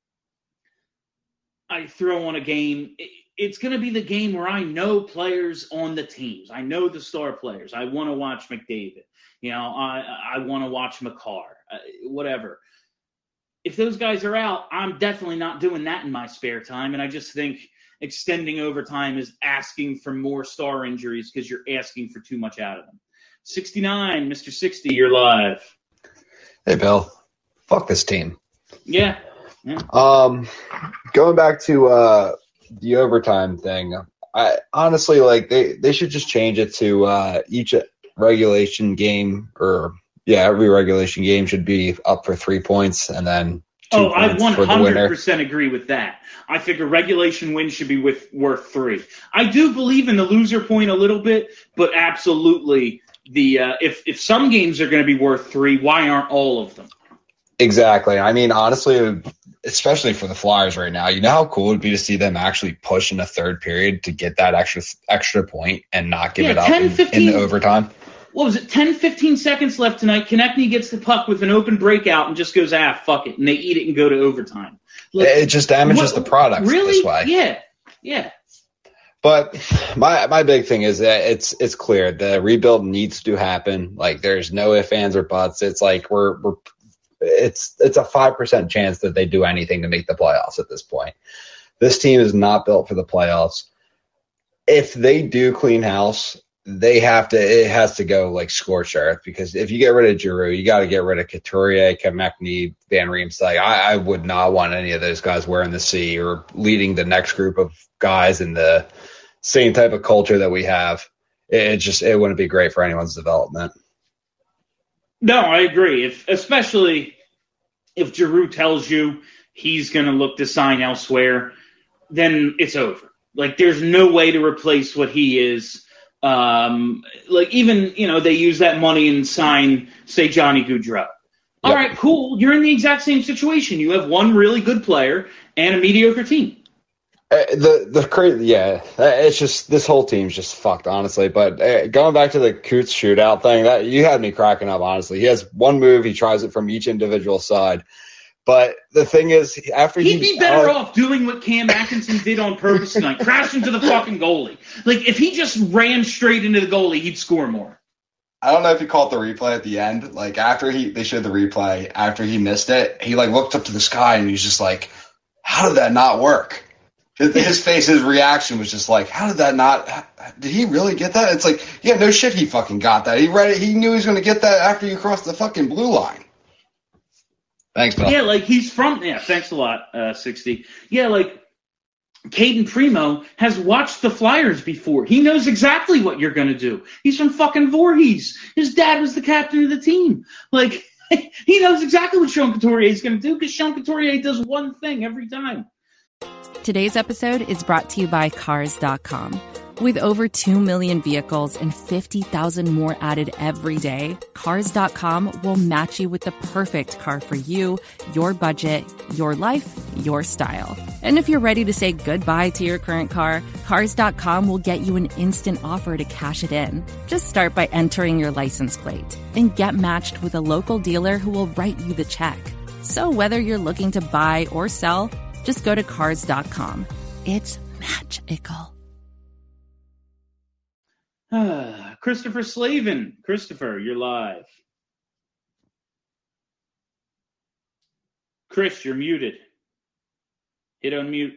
Speaker 5: I throw on a game. It's going to be the game where I know players on the teams. I know the star players. I want to watch McDavid. You know, I I want to watch McCarr. Uh, whatever. If those guys are out, I'm definitely not doing that in my spare time. And I just think extending overtime is asking for more star injuries because you're asking for too much out of them. sixty-nine, Mister sixty, you're live.
Speaker 16: Hey, Bill. Fuck this team.
Speaker 5: Yeah. yeah.
Speaker 16: Um, going back to uh, the overtime thing, I honestly like they, they should just change it to uh, each regulation game or yeah, every regulation game should be up for three points and then two
Speaker 5: Oh, I
Speaker 16: points
Speaker 5: one
Speaker 16: for the winner.
Speaker 5: hundred percent agree with that. I figure regulation wins should be with, worth three. I do believe in the loser point a little bit, but absolutely the uh, if if some games are going to be worth three, why aren't all of them?
Speaker 16: Exactly. I mean, honestly, especially for the Flyers right now, you know how cool it would be to see them actually push in the third period to get that extra extra point and not give
Speaker 5: Yeah,
Speaker 16: it up
Speaker 5: ten,
Speaker 16: in,
Speaker 5: fifteen
Speaker 16: in the overtime.
Speaker 5: What was it, ten, fifteen seconds left tonight. Konechny gets the puck with an open breakout and just goes, ah, fuck it, and they eat it and go to overtime. Look,
Speaker 16: It just damages
Speaker 5: what-
Speaker 16: the product
Speaker 5: really?
Speaker 16: this way.
Speaker 5: Yeah, yeah.
Speaker 16: But my my big thing is that it's it's clear the rebuild needs to happen. Like there's no ifs, ands, or buts. It's like we're we're it's it's a five percent chance that they do anything to make the playoffs at this point. This team is not built for the playoffs. If they do clean house, they have to. It has to go like scorched earth because if you get rid of Giroux, you got to get rid of Couturier, Konechny, Van Riemsdyk. I, I would not want any of those guys wearing the C or leading the next group of guys in the same type of culture that we have. It, it just it wouldn't be great for anyone's development.
Speaker 5: No, I agree. If especially if Giroux tells you he's going to look to sign elsewhere, then it's over. Like there's no way to replace what he is. Um, like even you know they use that money and sign say Johnny Gaudreau. All right, cool. You're in the exact same situation. You have one really good player and a mediocre team.
Speaker 16: Uh, the the crazy yeah, uh, it's just this whole team's just fucked honestly. But uh, going back to the Coots shootout thing, that you had me cracking up honestly. He has one move, he tries it from each individual side. But the thing is, after
Speaker 5: He'd
Speaker 16: he
Speaker 5: be better
Speaker 16: uh,
Speaker 5: off doing what Cam Atkinson did on purpose tonight, crash into the fucking goalie. Like if he just ran straight into the goalie, he'd score more.
Speaker 16: I don't know if you caught the replay at the end. Like after he they showed the replay after he missed it, he like looked up to the sky and he was just like, "How did that not work?" His, his face, his reaction was just like, "How did that not? Did he really get that?" It's like, yeah, no shit, he fucking got that. He read it. He knew he was going to get that after you crossed the fucking blue line. Thanks, Bill.
Speaker 5: Yeah, like he's from. Yeah, thanks a lot, uh, sixty. Yeah, like Caden Primo has watched the Flyers before. He knows exactly what you're going to do. He's from fucking Voorhees. His dad was the captain of the team. Like he knows exactly what Sean Couturier is going to do because Sean Couturier does one thing every time.
Speaker 17: Today's episode is brought to you by Cars dot com. With over two million vehicles and fifty thousand more added every day, Cars dot com will match you with the perfect car for you, your budget, your life, your style. And if you're ready to say goodbye to your current car, Cars dot com will get you an instant offer to cash it in. Just start by entering your license plate and get matched with a local dealer who will write you the check. So whether you're looking to buy or sell, just go to Cars dot com. It's magical.
Speaker 5: Ah, Christopher Slavin. Christopher, you're live. Chris, you're muted. Hit unmute.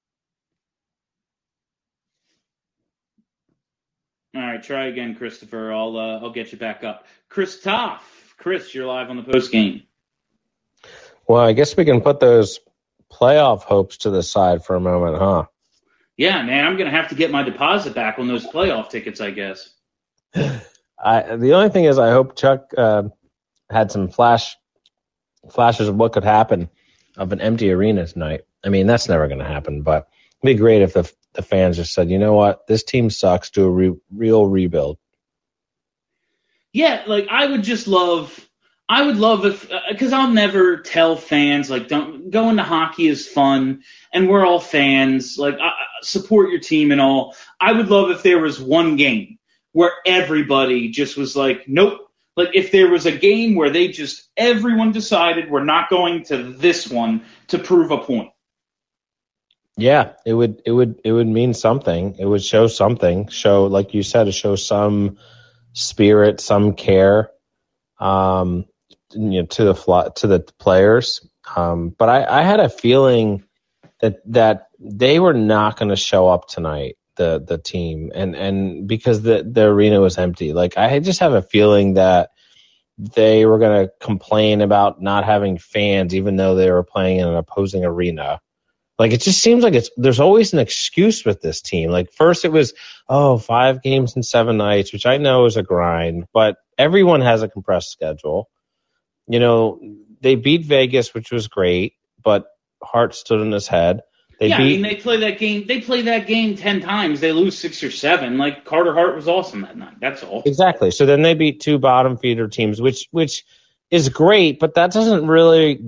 Speaker 5: All right, try again, Christopher. I'll uh, I'll get you back up. Chris Toff. Chris, you're live on the post game.
Speaker 18: Well, I guess we can put those playoff hopes to the side for a moment, huh?
Speaker 5: Yeah, man, I'm going to have to get my deposit back on those playoff tickets, I guess.
Speaker 18: I, the only thing is I hope Chuck uh, had some flash flashes of what could happen of an empty arena tonight. I mean, that's never going to happen, but it'd be great if the, the fans just said, you know what, this team sucks, do a re- real rebuild.
Speaker 5: Yeah, like I would just love, I would love if, because I'll never tell fans, like, don't, going to hockey is fun, and we're all fans, like, I, support your team and all. I would love if there was one game where everybody just was like, nope. Like, if there was a game where they just, everyone decided we're not going to this one to prove a point.
Speaker 18: Yeah, it would, it would, it would mean something. It would show something, show, like you said, it shows some spirit, some care, um, you know, to the to the players. Um, but I, I had a feeling that that they were not going to show up tonight, the the team, and and because the the arena was empty. Like I just have a feeling that they were going to complain about not having fans, even though they were playing in an opposing arena. Like it just seems like it's there's always an excuse with this team. Like first it was oh five games in seven nights, which I know is a grind, but everyone has a compressed schedule. You know, they beat Vegas, which was great, but Hart stood on his head. They
Speaker 5: yeah,
Speaker 18: beat,
Speaker 5: I mean they play that game. They play that game ten times. They lose six or seven. Like Carter Hart was awesome that night. That's all.
Speaker 18: Exactly. So then they beat two bottom feeder teams, which which is great, but that doesn't really.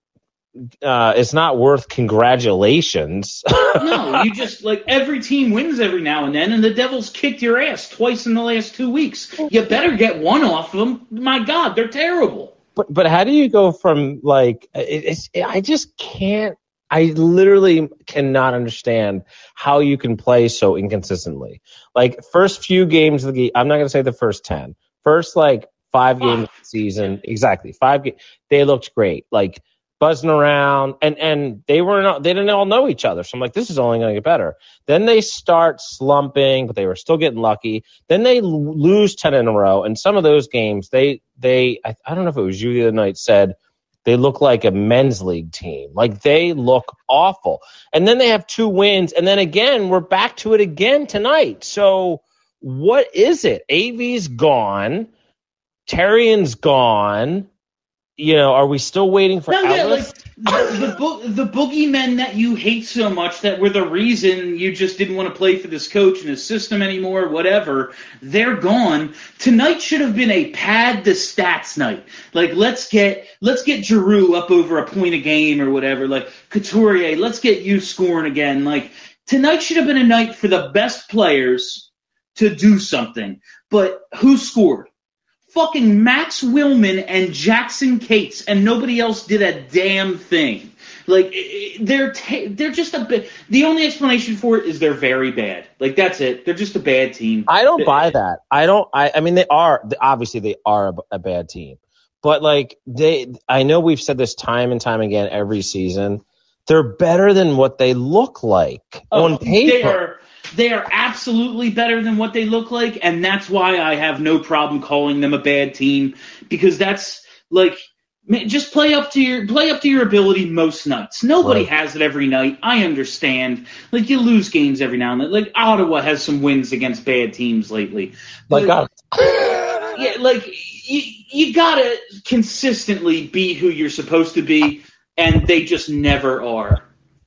Speaker 18: Uh, it's not worth congratulations.
Speaker 5: No, you just like every team wins every now and then, and the Devils kicked your ass twice in the last two weeks. You better get one off them. My God, they're terrible.
Speaker 18: But but how do you go from like it, it's it, I just can't. I literally cannot understand how you can play so inconsistently. Like first few games of the game, I'm not going to say the first ten. First like five games of the season, exactly five games. They looked great. Like. Buzzing around, and and they were not, they didn't all know each other. So I'm like, this is only going to get better. Then they start slumping, but they were still getting lucky. Then they l- lose ten in a row, and some of those games, they they I, I don't know if it was you the other night said they look like a men's league team. Like they look awful. And then they have two wins, and then again we're back to it again tonight. So what is it? A V's gone, Terrian's gone. You know, are we still waiting for
Speaker 5: no, yeah,
Speaker 18: Ellis?
Speaker 5: like the the, bo- the boogeymen that you hate so much that were the reason you just didn't want to play for this coach and his system anymore, whatever, they're gone. Tonight should have been a pad the stats night. Like let's get let's get Giroux up over a point a game or whatever. Like Couturier, let's get you scoring again. Like tonight should have been a night for the best players to do something. But who scored? Fucking Max Willman and Jackson Cates, and nobody else did a damn thing. Like they're ta- they're just a bit. The only explanation for it is they're very bad. Like that's it. They're just a bad team.
Speaker 18: I don't buy that. I don't. I. I mean, they are obviously they are a, a bad team, but like they. I know we've said this time and time again every season. They're better than what they look like
Speaker 5: oh,
Speaker 18: on paper.
Speaker 5: They are. They are absolutely better than what they look like, and that's why I have no problem calling them a bad team, because that's like man, just play up to your play up to your ability most nights. Nobody
Speaker 18: Right.
Speaker 5: has it every night. I understand. Like you lose games every now and then. Like Ottawa has some wins against bad teams lately.
Speaker 18: Like
Speaker 5: But, yeah, like you, you gotta consistently be who you're supposed to be, and they just never are.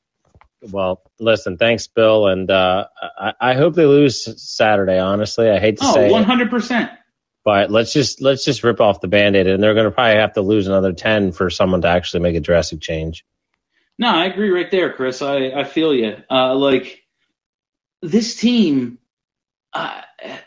Speaker 18: Well, listen, thanks, Bill, and uh, I, I hope they lose Saturday. Honestly, I hate to
Speaker 5: Oh,
Speaker 18: say
Speaker 5: one
Speaker 18: it,
Speaker 5: hundred percent.
Speaker 18: but let's just let's just rip off the Band-Aid, and they're going to probably have to lose another ten for someone to actually make a drastic change.
Speaker 5: No, I agree right there, Chris. I, I feel you. Uh, like, this team, uh,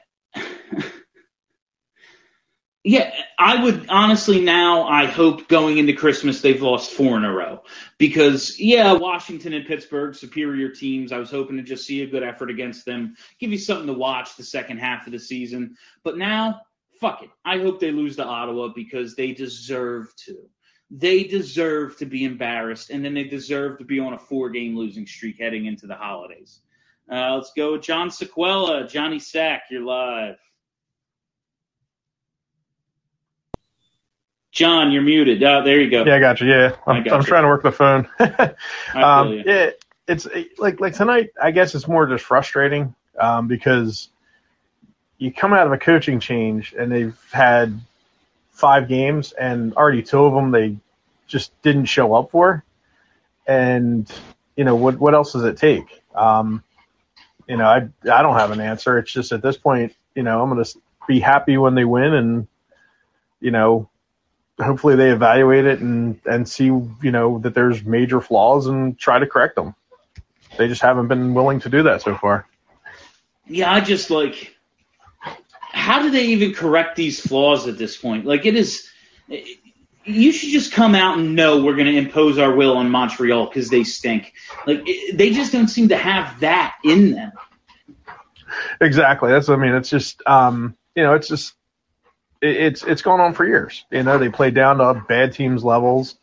Speaker 5: yeah, I would honestly now, I hope going into Christmas they've lost four in a row. Because, yeah, Washington and Pittsburgh, superior teams. I was hoping to just see a good effort against them, give you something to watch the second half of the season. But now, fuck it. I hope they lose to Ottawa because they deserve to. They deserve to be embarrassed, and then they deserve to be on a four-game losing streak heading into the holidays. Uh, let's go with John Sequella. Johnny Sack, you're live. John, you're muted. Oh, there you go.
Speaker 19: Yeah, I got you. Yeah, I'm,
Speaker 5: I got
Speaker 19: I'm
Speaker 5: you.
Speaker 19: trying to work the phone.
Speaker 5: I feel
Speaker 19: um,
Speaker 5: you.
Speaker 19: yeah, it's like like tonight. I guess it's more just frustrating um, because you come out of a coaching change and they've had five games and already two of them they just didn't show up for. And you know what? What else does it take? Um, you know, I I don't have an answer. It's just at this point, you know, I'm going to be happy when they win, and you know. Hopefully they evaluate it and, and see, you know, that there's major flaws and try to correct them. They just haven't been willing to do that so far.
Speaker 5: Yeah, I just like, how do they even correct these flaws at this point? Like it is, you should just come out and know we're going to impose our will on Montreal because they stink. Like it, they just don't seem to have that in them.
Speaker 19: Exactly. That's, I mean, it's just, um, you know, it's just, it, it's, it's gone on for years. You know, they play down to bad teams levels.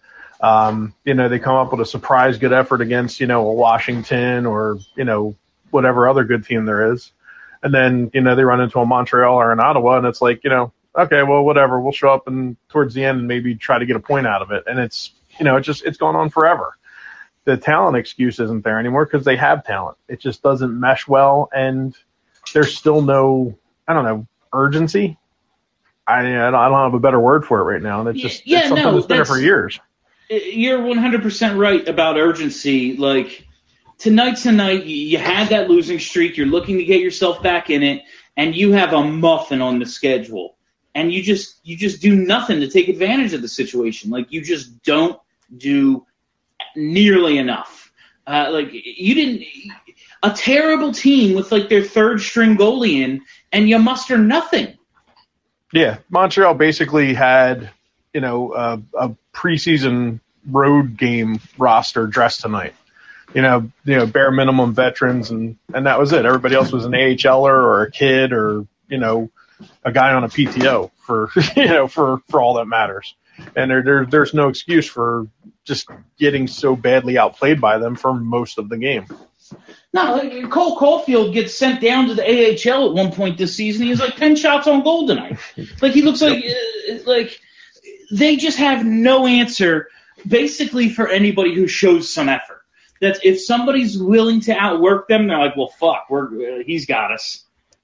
Speaker 19: Um, you know, they come up with a surprise good effort against, you know, a Washington or, you know, whatever other good team there is. And then, you know, they run into a Montreal or an Ottawa, and it's like, you know, okay, well, whatever. We'll show up and towards the end and maybe try to get a point out of it. And it's, you know, it's just, it's gone on forever. The talent excuse isn't there anymore because they have talent. It just doesn't mesh well, and there's still no, I don't know, urgency. I, I don't have a better word for it right now. And it's just
Speaker 5: Yeah,
Speaker 19: it's something
Speaker 5: no,
Speaker 19: that's been there for
Speaker 5: that's-
Speaker 19: years.
Speaker 5: You're one hundred percent right about urgency. Like, tonight, tonight, you you had that losing streak. You're looking to get yourself back in it, and you have a muffin on the schedule. And you just you just do nothing to take advantage of the situation. Like, you just don't do nearly enough. Uh, like, you didn't – a terrible team with, like, their third-string goalie in, and you muster nothing.
Speaker 19: Yeah, Montreal basically had, you know, a, a preseason road game roster dressed tonight. You know, you know, bare minimum veterans, and, and that was it. Everybody else was an A H L er or a kid or, you know, a guy on a P T O for, you know, for, for all that matters. And there, there there's no excuse for just getting so badly outplayed by them for most of the game.
Speaker 5: No, like, Cole Caulfield gets sent down to the A H L at one point this season. He has like ten shots on goal tonight. Like, he looks like uh, like they just have no answer, basically, for anybody who shows some effort. That if somebody's willing to outwork them, they're like, well, fuck, we're uh, he's got us.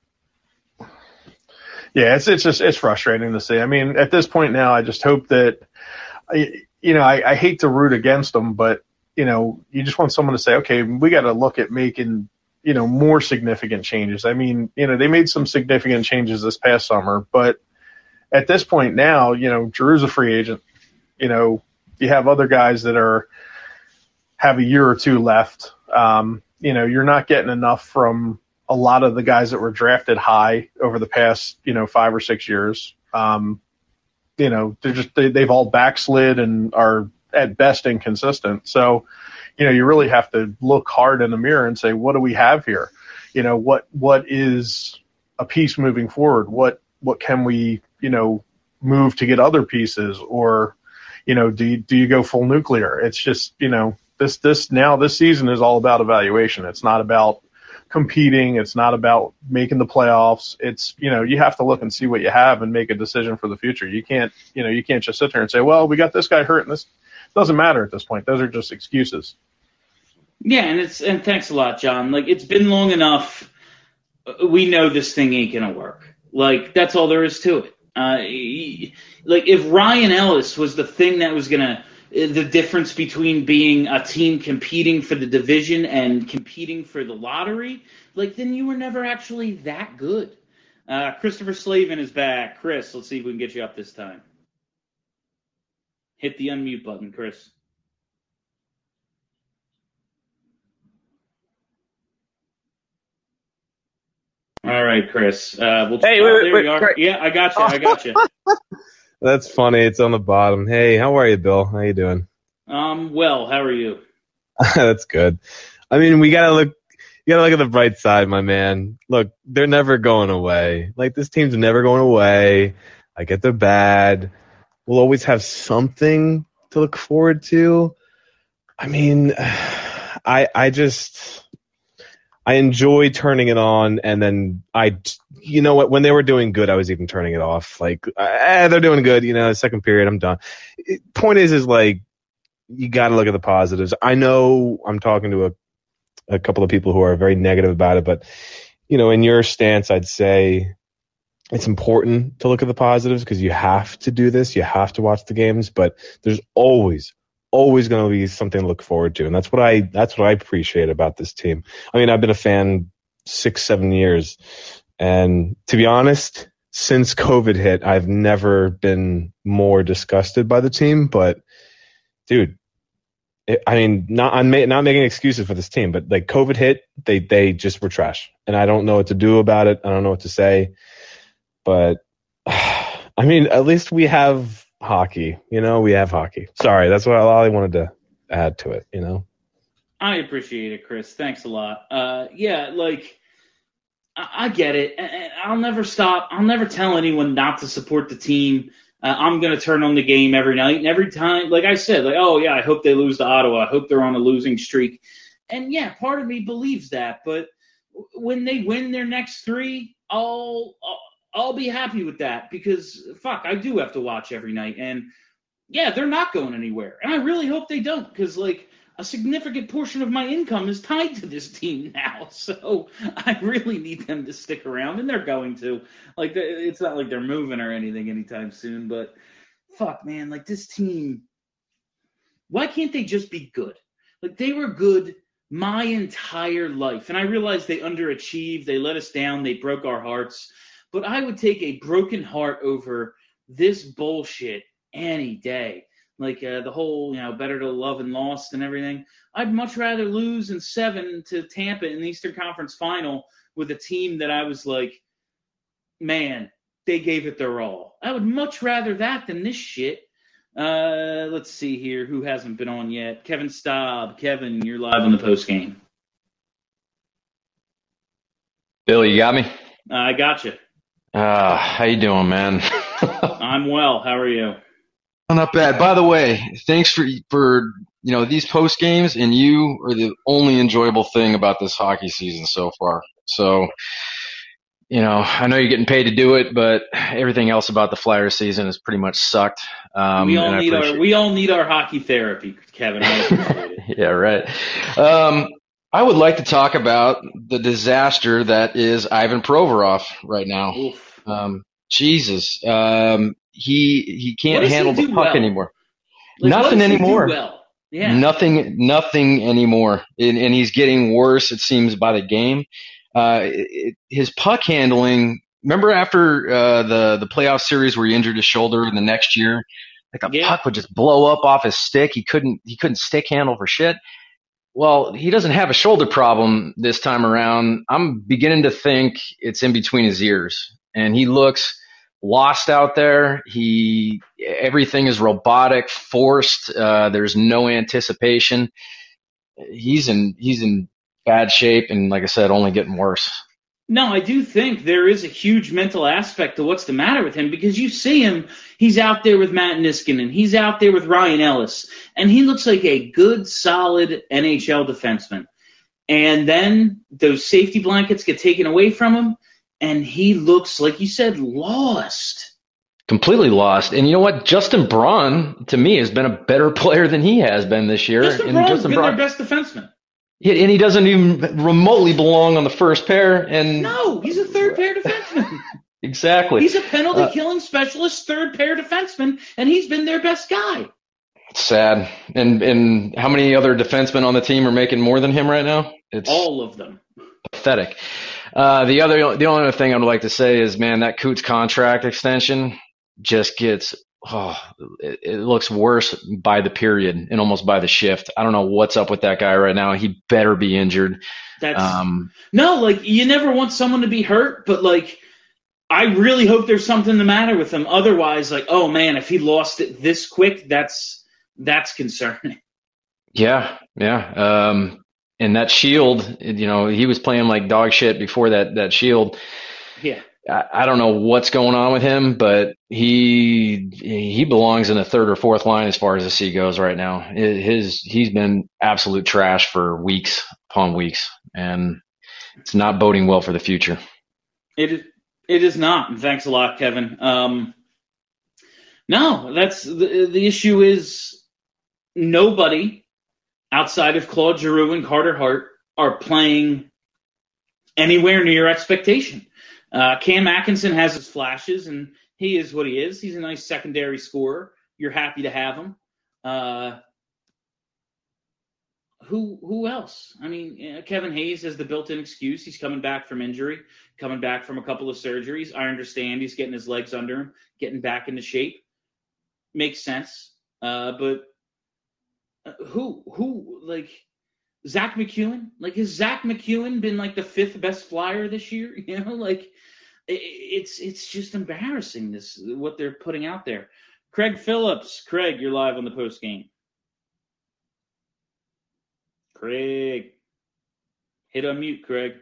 Speaker 19: Yeah, it's it's just it's frustrating to see. I mean, at this point now, I just hope that, you know, I, I hate to root against them, but you know, you just want someone to say, okay, we got to look at making, you know, more significant changes. I mean, you know, they made some significant changes this past summer, but at this point now, you know, Giroux's a free agent. You know, you have other guys that are have a year or two left. Um, you know, you're not getting enough from a lot of the guys that were drafted high over the past, you know, five or six years. Um, you know, they're just they, they've all backslid and are at best inconsistent. So, you know, you really have to look hard in the mirror and say, what do we have here? You know, what what is a piece moving forward? What what can we, you know, move to get other pieces? Or, you know, do you, do you go full nuclear? It's just, you know, this this now this season is all about evaluation. It's not about competing. It's not about making the playoffs. It's, you know, you have to look and see what you have and make a decision for the future. You can't, you know, you can't just sit there and say, well, we got this guy hurt and this doesn't matter at this point. Those are just excuses.
Speaker 5: Yeah, and it's and thanks a lot, John. Like, it's been long enough. We know this thing ain't gonna work. Like, that's all there is to it. Uh, he, like, if Ryan Ellis was the thing that was gonna the difference between being a team competing for the division and competing for the lottery, like, then you were never actually that good. Uh, Christopher Slavin is back. Chris, let's see if we can get you up this time. Hit the unmute button, Chris. All right, Chris. Uh, we'll
Speaker 20: Hey,
Speaker 5: oh,
Speaker 20: wait,
Speaker 5: there
Speaker 20: wait,
Speaker 5: we are.
Speaker 20: wait.
Speaker 5: Yeah, I got you. I got you.
Speaker 20: That's funny. It's on the bottom. Hey, how are you, Bill? How you doing?
Speaker 5: Um, well, how are you?
Speaker 20: That's good. I mean, we gotta look. You gotta look at the bright side, my man. Look, they're never going away. Like, this team's never going away. I get they're bad. We'll always have something to look forward to. I mean, I I just I enjoy turning it on, and then I, you know what, when they were doing good, I was even turning it off. Like, eh, they're doing good, you know, second period, I'm done. It, point is, is like, you got to look at the positives. I know I'm talking to a, a couple of people who are very negative about it, but, you know, in your stance, I'd say it's important to look at the positives because you have to do this. You have to watch the games, but there's always, always going to be something to look forward to. And that's what I, that's what I appreciate about this team. I mean, I've been a fan six, seven years. And to be honest, since COVID hit, I've never been more disgusted by the team, but dude, it, I mean, not, I'm ma- not making excuses for this team, but like COVID hit, they, they just were trash and I don't know what to do about it. I don't know what to say, but I mean, at least we have hockey, you know, we have hockey. Sorry, that's what all I wanted to add to it, you know.
Speaker 5: I appreciate it, Chris. Thanks a lot. Uh, yeah, like, I, I get it. And I'll never stop. I'll never tell anyone not to support the team. Uh, I'm going to turn on the game every night. And every time, like I said, like, oh, yeah, I hope they lose to Ottawa. I hope they're on a losing streak. And, yeah, part of me believes that. But when they win their next three, I'll, I'll, I'll be happy with that because, fuck, I do have to watch every night. And, yeah, they're not going anywhere. And I really hope they don't because, like, a significant portion of my income is tied to this team now. So I really need them to stick around, and they're going to. Like, it's not like they're moving or anything anytime soon, but fuck, man, like this team, why can't they just be good? Like, they were good my entire life, and I realize they underachieved, they let us down, they broke our hearts, but I would take a broken heart over this bullshit any day. Like uh, the whole, you know, better to love and lost and everything. I'd much rather lose in seven to Tampa in the Eastern Conference Final with a team that I was like, man, they gave it their all. I would much rather that than this shit. Uh, let's see here. Who hasn't been on yet? Kevin Staub. Kevin, you're live on the post game.
Speaker 21: Bill, you got me?
Speaker 5: Uh, I got you.
Speaker 21: Uh, how you doing, man?
Speaker 5: I'm well. How are you?
Speaker 21: Not bad. By the way, thanks for for you know these post games, and you are the only enjoyable thing about this hockey season so far. So, you know, I know you're getting paid to do it, but everything else about the Flyers season has pretty much sucked. Um,
Speaker 5: we all
Speaker 21: and I
Speaker 5: need our
Speaker 21: appreciate-
Speaker 5: we all need our hockey therapy, Kevin. I appreciate it.
Speaker 21: Yeah, right. Um, I would like to talk about the disaster that is Ivan Provorov right now.
Speaker 5: Oof.
Speaker 21: Um, Jesus. Um, he he
Speaker 5: What
Speaker 21: can't
Speaker 5: does he
Speaker 21: handle the
Speaker 5: do
Speaker 21: puck
Speaker 5: well?
Speaker 21: anymore.
Speaker 5: Like, what
Speaker 21: Nothing
Speaker 5: does he do
Speaker 21: anymore.
Speaker 5: well? Yeah.
Speaker 21: Nothing, nothing anymore. And, and he's getting worse, it seems, by the game. Uh, it, it- his puck handling. Remember after uh, the the playoff series where he injured his shoulder, and the next year, like the
Speaker 5: Yeah.
Speaker 21: puck would just blow up off his stick. He couldn't he couldn't stick handle for shit. Well, he doesn't have a shoulder problem this time around. I'm beginning to think it's in between his ears, and he looks lost out there. He everything is robotic, forced. Uh, there's no anticipation. He's in he's in bad shape, and like I said, only getting worse.
Speaker 5: No, I do think there is a huge mental aspect to what's the matter with him because you see him, he's out there with Matt Niskanen, he's out there with Ryan Ellis, and he looks like a good, solid N H L defenseman. And then those safety blankets get taken away from him, and he looks, like you said, lost.
Speaker 21: Completely lost. And you know what? Justin Braun, to me, has been a better player than he has been this year.
Speaker 5: Justin
Speaker 21: and
Speaker 5: Braun's
Speaker 21: Justin
Speaker 5: been
Speaker 21: Braun,
Speaker 5: their best defenseman.
Speaker 21: Yeah, and he doesn't even remotely belong on the first pair. And
Speaker 5: No, he's a third pair defenseman.
Speaker 21: exactly.
Speaker 5: He's a penalty
Speaker 21: Uh,
Speaker 5: killing specialist, third pair defenseman, and he's been their best guy.
Speaker 21: Sad. And and how many other defensemen on the team are making more than him right now? It's
Speaker 5: All of them.
Speaker 21: pathetic. Uh, the other, the only other thing I would like to say is, man, that Coots contract extension just gets, oh, it, it looks worse by the period and almost by the shift. I don't know what's up with that guy right now. He better be injured.
Speaker 5: That's
Speaker 21: Um,
Speaker 5: no, like you never want someone to be hurt, but like I really hope there's something the matter with him. Otherwise, like, oh man, if he lost it this quick, that's that's concerning.
Speaker 21: yeah, yeah. Um, and that Shield, you know, he was playing like dog shit before that, that Shield.
Speaker 5: Yeah.
Speaker 21: I, I don't know what's going on with him, but he he belongs in the third or fourth line as far as the C goes right now. His he's been absolute trash for weeks upon weeks, and it's not boding well for the future.
Speaker 5: It is- it is not. And thanks a lot, Kevin. Um, no, that's the the issue is nobody outside of Claude Giroux and Carter Hart are playing anywhere near expectation. Uh, Cam Atkinson has his flashes, and he is what he is. He's a nice secondary scorer. You're happy to have him. Uh, who who else? I mean, uh, Kevin Hayes has the built-in excuse. He's coming back from injury, coming back from a couple of surgeries. I understand he's getting his legs under him, getting back into shape. Makes sense. Uh, but uh, who who like Zach McEwen? Like, has Zach McEwen been like the fifth best Flyer this year? You know, like it, it's it's just embarrassing this what they're putting out there. Craig Phillips, Craig, you're live on the post game. Craig, hit unmute, Craig.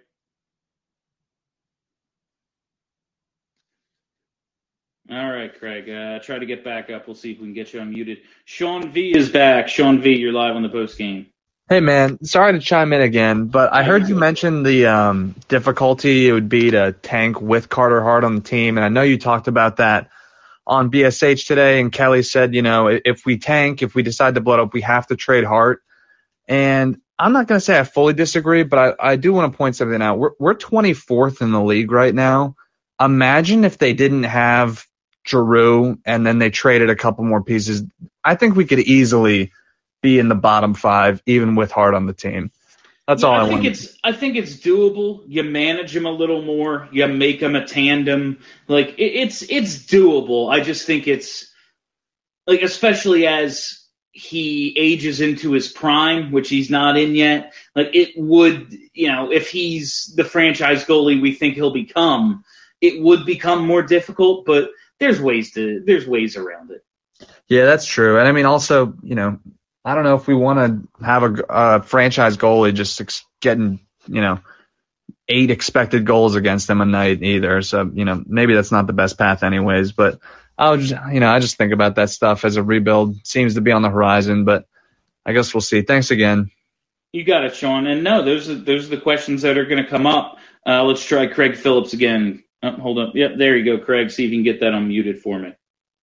Speaker 5: All right, Craig. Uh, try to get back up. We'll see if we can get you unmuted. Sean V is back. Sean V, you're live on the post game.
Speaker 8: Hey man, sorry to chime in again, but I heard you mention the um, difficulty it would be to tank with Carter Hart on the team, and I know you talked about that on B S H today, and Kelly said, you know, if we tank, if we decide to blow it up, we have to trade Hart. And I'm not going to say I fully disagree, but I, I do want to point something out. We're, we're twenty-fourth in the league right now. Imagine if they didn't have Giroux and then they traded a couple more pieces. I think we could easily be in the bottom five, even with Hart on the team. That's
Speaker 5: Yeah,
Speaker 8: all I,
Speaker 5: I think
Speaker 8: want.
Speaker 5: it's I think it's doable. You manage him a little more. You make him a tandem. Like it, it's it's doable. I just think it's like, especially as he ages into his prime, which he's not in yet. Like it would, you know, if he's the franchise goalie we think he'll become, it would become more difficult. But there's ways to there's ways around it.
Speaker 8: Yeah, that's true. And I mean, also, you know, I don't know if we want to have a, a franchise goalie just ex- getting, you know, eight expected goals against them a night either. So, you know, maybe that's not the best path anyways. But I would just, you know, I just think about that stuff as a rebuild seems to be on the horizon. But I guess we'll see. Thanks again.
Speaker 5: You got it, Sean. And no, those are, those are the questions that are going to come up. Uh, let's try Craig Phillips again. Oh, hold up. Yep, there you go, Craig. See if you can get that unmuted for me.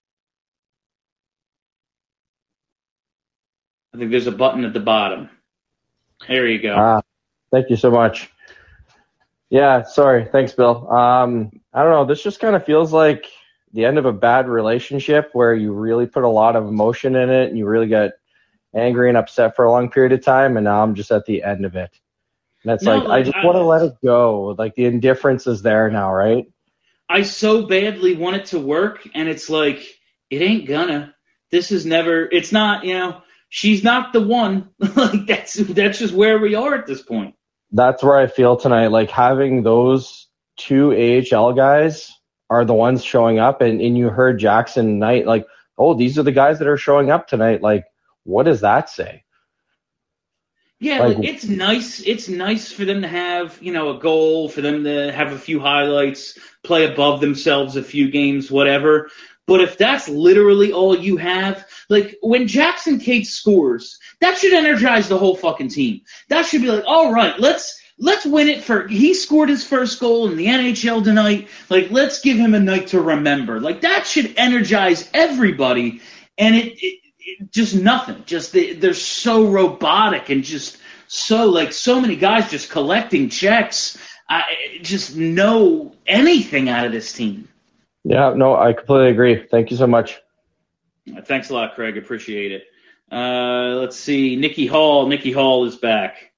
Speaker 5: I think there's a button at the bottom. There you go.
Speaker 1: Ah, thank you so much. Yeah, sorry. Thanks, Bill. Um, I don't know. This just kind of feels like the end of a bad relationship where you really put a lot of emotion in it and you really get angry and upset for a long period of time, and now I'm just at the end of it. And it's
Speaker 5: No,
Speaker 1: like, I
Speaker 5: like,
Speaker 1: just
Speaker 5: I-
Speaker 1: want to let it go. Like, the indifference is there now, right?
Speaker 5: I so badly want it to work, and it's like, it ain't gonna. This is never, it's not, you know, she's not the one. Like, that's that's just where we are at this point.
Speaker 1: That's where I feel tonight. Like, having those two A H L guys are the ones showing up, and, and you heard Jackson Knight, like, oh, these are the guys that are showing up tonight. Like, what does that say?
Speaker 5: Yeah,
Speaker 1: Like-
Speaker 5: like, it's nice. It's nice for them to have, you know, a goal, for them to have a few highlights, play above themselves a few games, whatever. But if that's literally all you have, like when Jackson Cates scores, that should energize the whole fucking team. That should be like, all right, let's let's win it for. He scored his first goal in the N H L tonight. Like, let's give him a night to remember. Like, that should energize everybody. And it, it, it just nothing. Just they, they're so robotic and just so like so many guys just collecting checks. I just know anything out of this team.
Speaker 1: Yeah, no, I completely agree. Thank you so much.
Speaker 5: Uh, Thanks a lot, Craig. Appreciate it. Uh, let's see. Nikki Hall. Nikki Hall is back.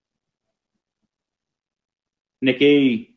Speaker 5: Nikki.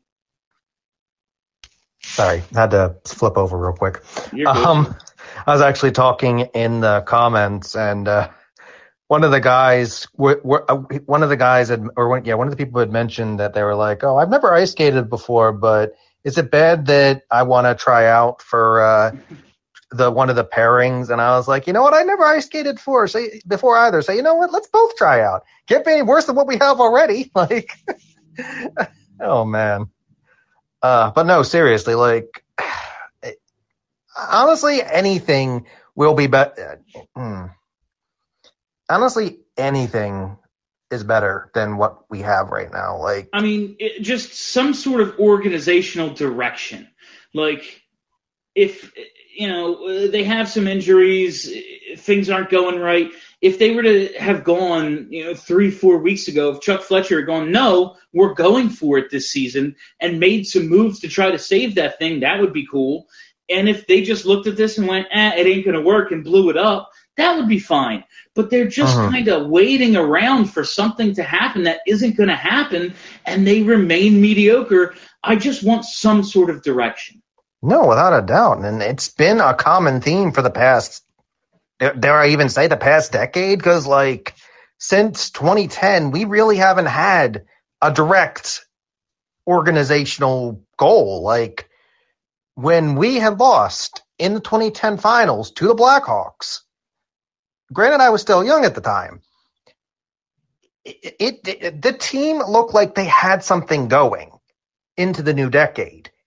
Speaker 15: Sorry, had to flip over real quick.
Speaker 5: You're good.
Speaker 15: Um, I was actually talking in the comments, and uh, one of the guys, were, were, uh, one of the guys, had, or one, yeah, one of the people had mentioned that they were like, "Oh, I've never ice skated before, but is it bad that I want to try out for uh, the one of the pairings?" And I was like, you know what? I never ice skated for so, before either. So you know what? Let's both try out. Can't be any worse than what we have already. Like, oh man. Uh, but no, seriously, like, honestly, anything will be better. Hmm. Honestly, anything is better than what we have right now. Like,
Speaker 5: I mean, it, just some sort of organizational direction. Like, if, you know, they have some injuries, things aren't going right. If they were to have gone, you know, three, four weeks ago, if Chuck Fletcher had gone, no, we're going for it this season, and made some moves to try to save that thing, that would be cool. And if they just looked at this and went, eh, it ain't going to work, and blew it up, that would be fine. But they're just
Speaker 15: Uh-huh.
Speaker 5: kind of waiting around for something to happen that isn't going to happen, and they remain mediocre. I just want some sort of direction.
Speaker 15: no, without a doubt. And it's been a common theme for the past, dare I even say the past decade? Because, like, since twenty ten, we really haven't had a direct organizational goal. Like, when we had lost in the twenty ten finals to the Blackhawks, granted, I was still young at the time, it, it, it the team looked like they had something going into the new decade.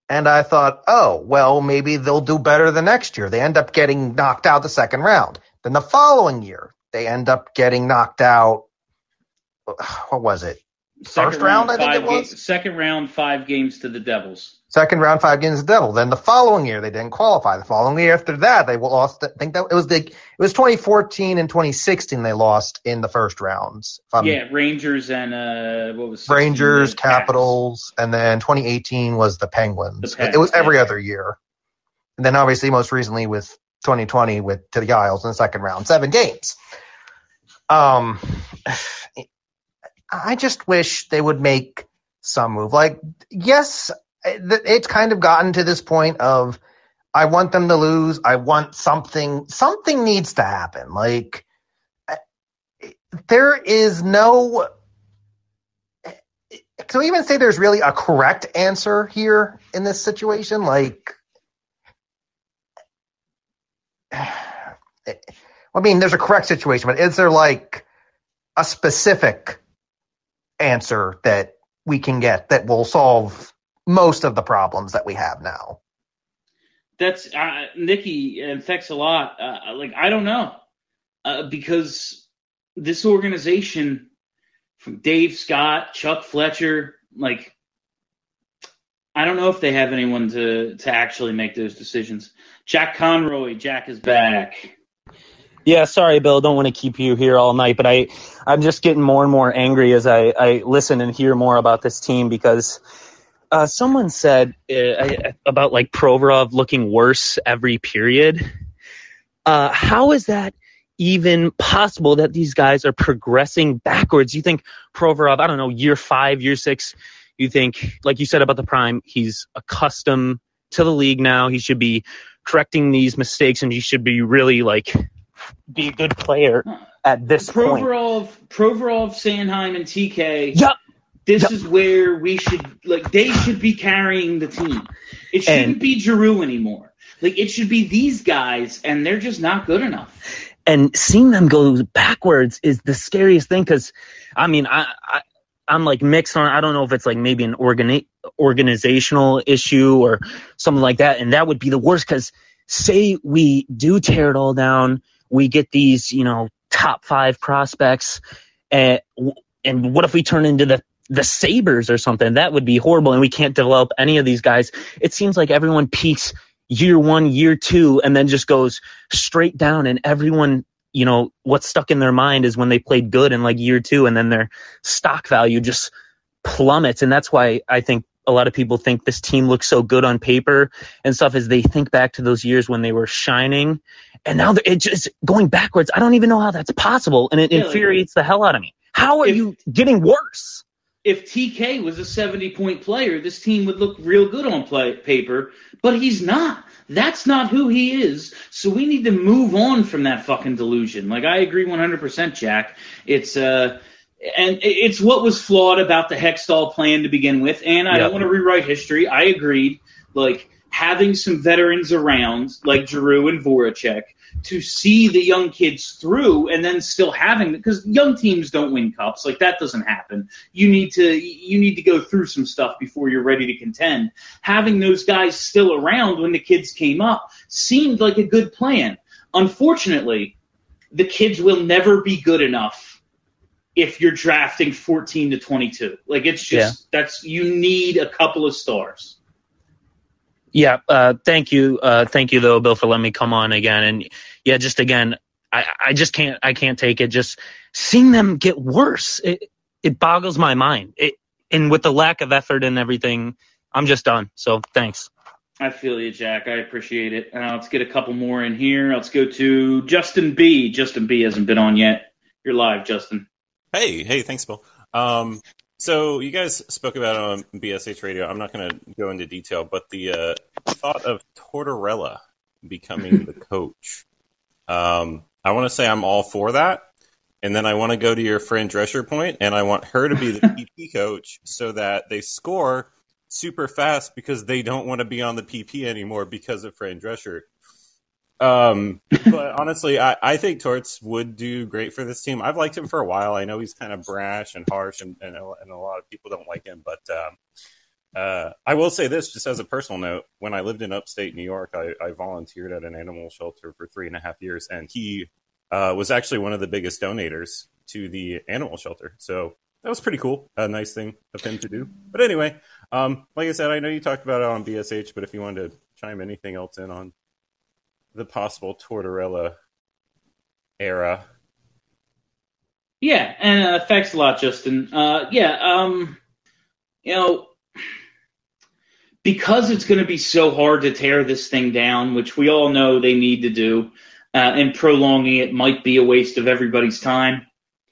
Speaker 15: And I thought, oh, well, maybe they'll do better the next year. They end up getting knocked out the second round. Then the following year, they end up getting knocked out. What was it?
Speaker 5: Second
Speaker 15: First round, I think
Speaker 5: five
Speaker 15: it was?
Speaker 5: ga- second round, five games to the Devils.
Speaker 15: Second round, five games to the Devil. Then the following year, they didn't qualify. The following year after that, they lost. I think that it was the it was twenty fourteen and twenty sixteen. They lost in the first rounds. If I'm-
Speaker 5: yeah, Rangers and uh, what was
Speaker 15: Rangers,
Speaker 5: sixteen?
Speaker 15: Capitals, and then twenty eighteen was the Penguins.
Speaker 5: The Pens,
Speaker 15: it was every
Speaker 5: yeah.
Speaker 15: other year. And then obviously most recently with twenty twenty with to the Isles in the second round, seven games. Um, I just wish they would make some move. Like, yes, it's kind of gotten to this point of I want them to lose. I want something. Something needs to happen. Like, there is no. Can we even say there's really a correct answer here in this situation? Like, I mean, there's a correct situation, but is there like a specific answer that we can get that will solve most of the problems that we have now?
Speaker 5: That's uh, Nikki, and thanks a lot. Uh, like, I don't know, uh, because this organization, from Dave Scott, Chuck Fletcher, like, I don't know if they have anyone to to actually make those decisions. Jack Conroy, Jack is back.
Speaker 12: Yeah, sorry, Bill. Don't want to keep you here all night, but I, I'm just getting more and more angry as I, I listen and hear more about this team because uh, someone said uh, about like Provorov looking worse every period. Uh, how is that even possible that these guys are progressing backwards? You think Provorov, I don't know, year five, year six, you think, like you said about the prime, he's accustomed to the league now. He should be correcting these mistakes and he should be really like be a good player at this point.
Speaker 5: Provorov, Provorov, Sanheim, and T K.
Speaker 12: Yep.
Speaker 5: This
Speaker 12: Yep.
Speaker 5: is where we should, like, they should be carrying the team. It shouldn't
Speaker 12: And-
Speaker 5: be Giroux anymore. Like, it should be these guys, and they're just not good enough.
Speaker 12: And seeing them go backwards is the scariest thing because, I mean, I, I, I'm like mixed on, I don't know if it's like maybe an organi- organizational issue or something like that. And that would be the worst because say we do tear it all down, we get these, you know, top five prospects, and, and what if we turn into the the Sabres or something? That would be horrible, and we can't develop any of these guys. It seems like everyone peaks year one, year two, and then just goes straight down, and everyone, you know, what's stuck in their mind is when they played good in like year two, and then their stock value just plummets. And that's why I think a lot of people think this team looks so good on paper and stuff, is they think back to those years when they were shining, and now they're it's just going backwards. I don't even know how that's possible, and it
Speaker 5: Yeah, like-
Speaker 12: infuriates the hell out of me. How are you getting worse?
Speaker 5: If T K was a seventy-point player, this team would look real good on play, paper, but he's not. That's not who he is. So we need to move on from that fucking delusion. Like, I agree one hundred percent, Jack. It's uh, and it's what was flawed about the Hextall plan to begin with. And I
Speaker 12: Yep.
Speaker 5: don't want to rewrite history. I agreed. Like, having some veterans around, like Giroux and Voracek, to see the young kids through, and then still having, because young teams don't win cups, like that doesn't happen. You need to you need to go through some stuff before you're ready to contend. Having those guys still around when the kids came up seemed like a good plan. Unfortunately, the kids will never be good enough if you're drafting fourteen to twenty-two. Like, it's just that's you need a couple of stars.
Speaker 12: Yeah, uh, thank you, uh, thank you though, Bill, for letting me come on again. And yeah, just again, I, I just can't, I can't take it. Just seeing them get worse, it, it boggles my mind. It, and with the lack of effort and everything, I'm just done. So thanks.
Speaker 5: I feel you, Jack. I appreciate it. Uh, let's get a couple more in here. Let's go to Justin B. Justin B. hasn't been on yet. You're live, Justin.
Speaker 2: Hey, hey, thanks, Bill. Um, so you guys spoke about it on B S H Radio. I'm not going to go into detail, but the uh, thought of Tortorella becoming the coach. Um, I want to say I'm all for that. And then I want to go to your Fran Drescher point, and I want her to be the P P coach so that they score super fast because they don't want to be on the P P anymore because of Fran Drescher. Um, but honestly, I, I think Torts would do great for this team. I've liked him for a while. I know he's kind of brash and harsh, and, and, and a lot of people don't like him. But um, Uh, I will say this, just as a personal note. When I lived in upstate New York, I, I volunteered at an animal shelter for three and a half years, and he uh, was actually one of the biggest donators to the animal shelter. So that was pretty cool. A nice thing of him to do. But anyway, um, like I said, I know you talked about it on B S H, but if you wanted to chime anything else in on the possible Tortorella era.
Speaker 5: Yeah, and uh, thanks a lot, Justin. Uh, yeah, um, you know, because it's going to be so hard to tear this thing down, which we all know they need to do, uh, and prolonging it might be a waste of everybody's time.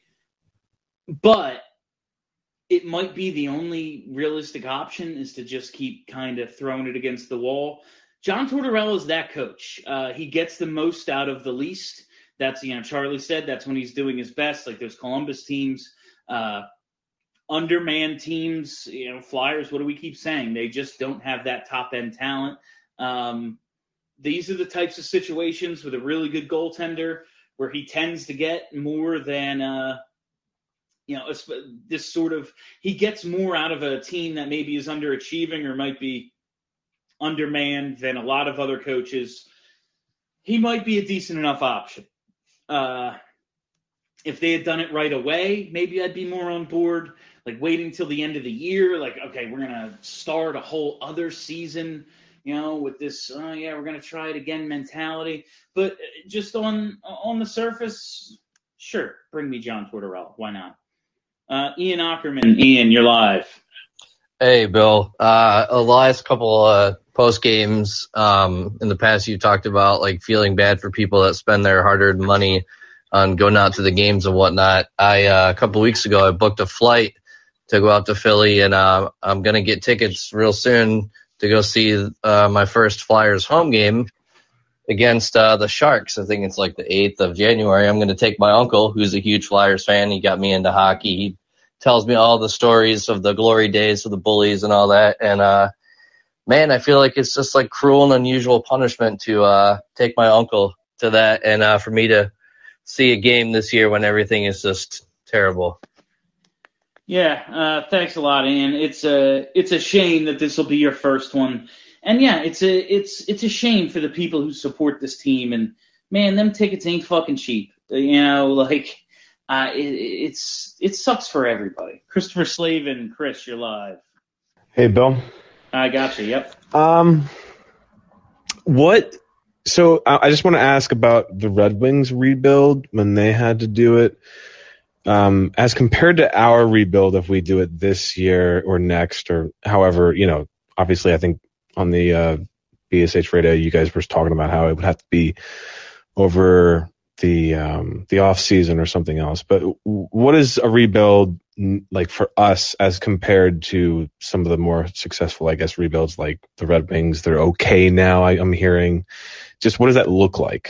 Speaker 5: But it might be the only realistic option is to just keep kind of throwing it against the wall. John Tortorella is that coach. Uh, he gets the most out of the least. That's, you know, Charlie said that's when he's doing his best. Like those Columbus teams, uh, undermanned teams, you know, Flyers, what do we keep saying? They just don't have that top-end talent. Um, these are the types of situations with a really good goaltender where he tends to get more than, uh, you know, this sort of – he gets more out of a team that maybe is underachieving or might be undermanned than a lot of other coaches. He might be a decent enough option. Uh, if they had done it right away, maybe I'd be more on board. Like waiting till the end of the year, like, okay, we're going to start a whole other season, you know, with this, oh, yeah, we're going to try it again mentality. But just on on the surface, sure, bring me John Tortorella. Why not? Uh, Ian Ackerman. Ian, you're live.
Speaker 13: Hey, Bill. Uh, the last couple uh, post games um, in the past, you talked about like feeling bad for people that spend their hard-earned money on going out to the games and whatnot. I uh, a couple weeks ago, I booked a flight to go out to Philly, and uh, I'm gonna get tickets real soon to go see uh, my first Flyers home game against uh, the Sharks. I think it's like the eighth of January. I'm gonna take my uncle, who's a huge Flyers fan. He got me into hockey. He tells me all the stories of the glory days of the Bullies and all that. And, uh, man, I feel like it's just like cruel and unusual punishment to, uh, take my uncle to that and, uh, for me to see a game this year when everything is just terrible.
Speaker 5: Yeah. Uh, thanks a lot, Ian. It's a, it's a shame that this will be your first one. And yeah, it's a, it's, it's a shame for the people who support this team. And man, them tickets ain't fucking cheap. You know, like, Uh, it, it's it sucks for everybody. Christopher Slavin, Chris, you're live.
Speaker 20: Hey, Bill.
Speaker 5: I got you. Yep.
Speaker 20: Um, what? So I I just want to ask about the Red Wings rebuild when they had to do it, um, as compared to our rebuild if we do it this year or next or however. You know, obviously, I think on the uh, B S H radio, you guys were talking about how it would have to be over the um the off season or something else. But what is a rebuild like for us as compared to some of the more successful, I guess, rebuilds like the Red Wings? They're okay now, I, I'm hearing. Just what does that look like?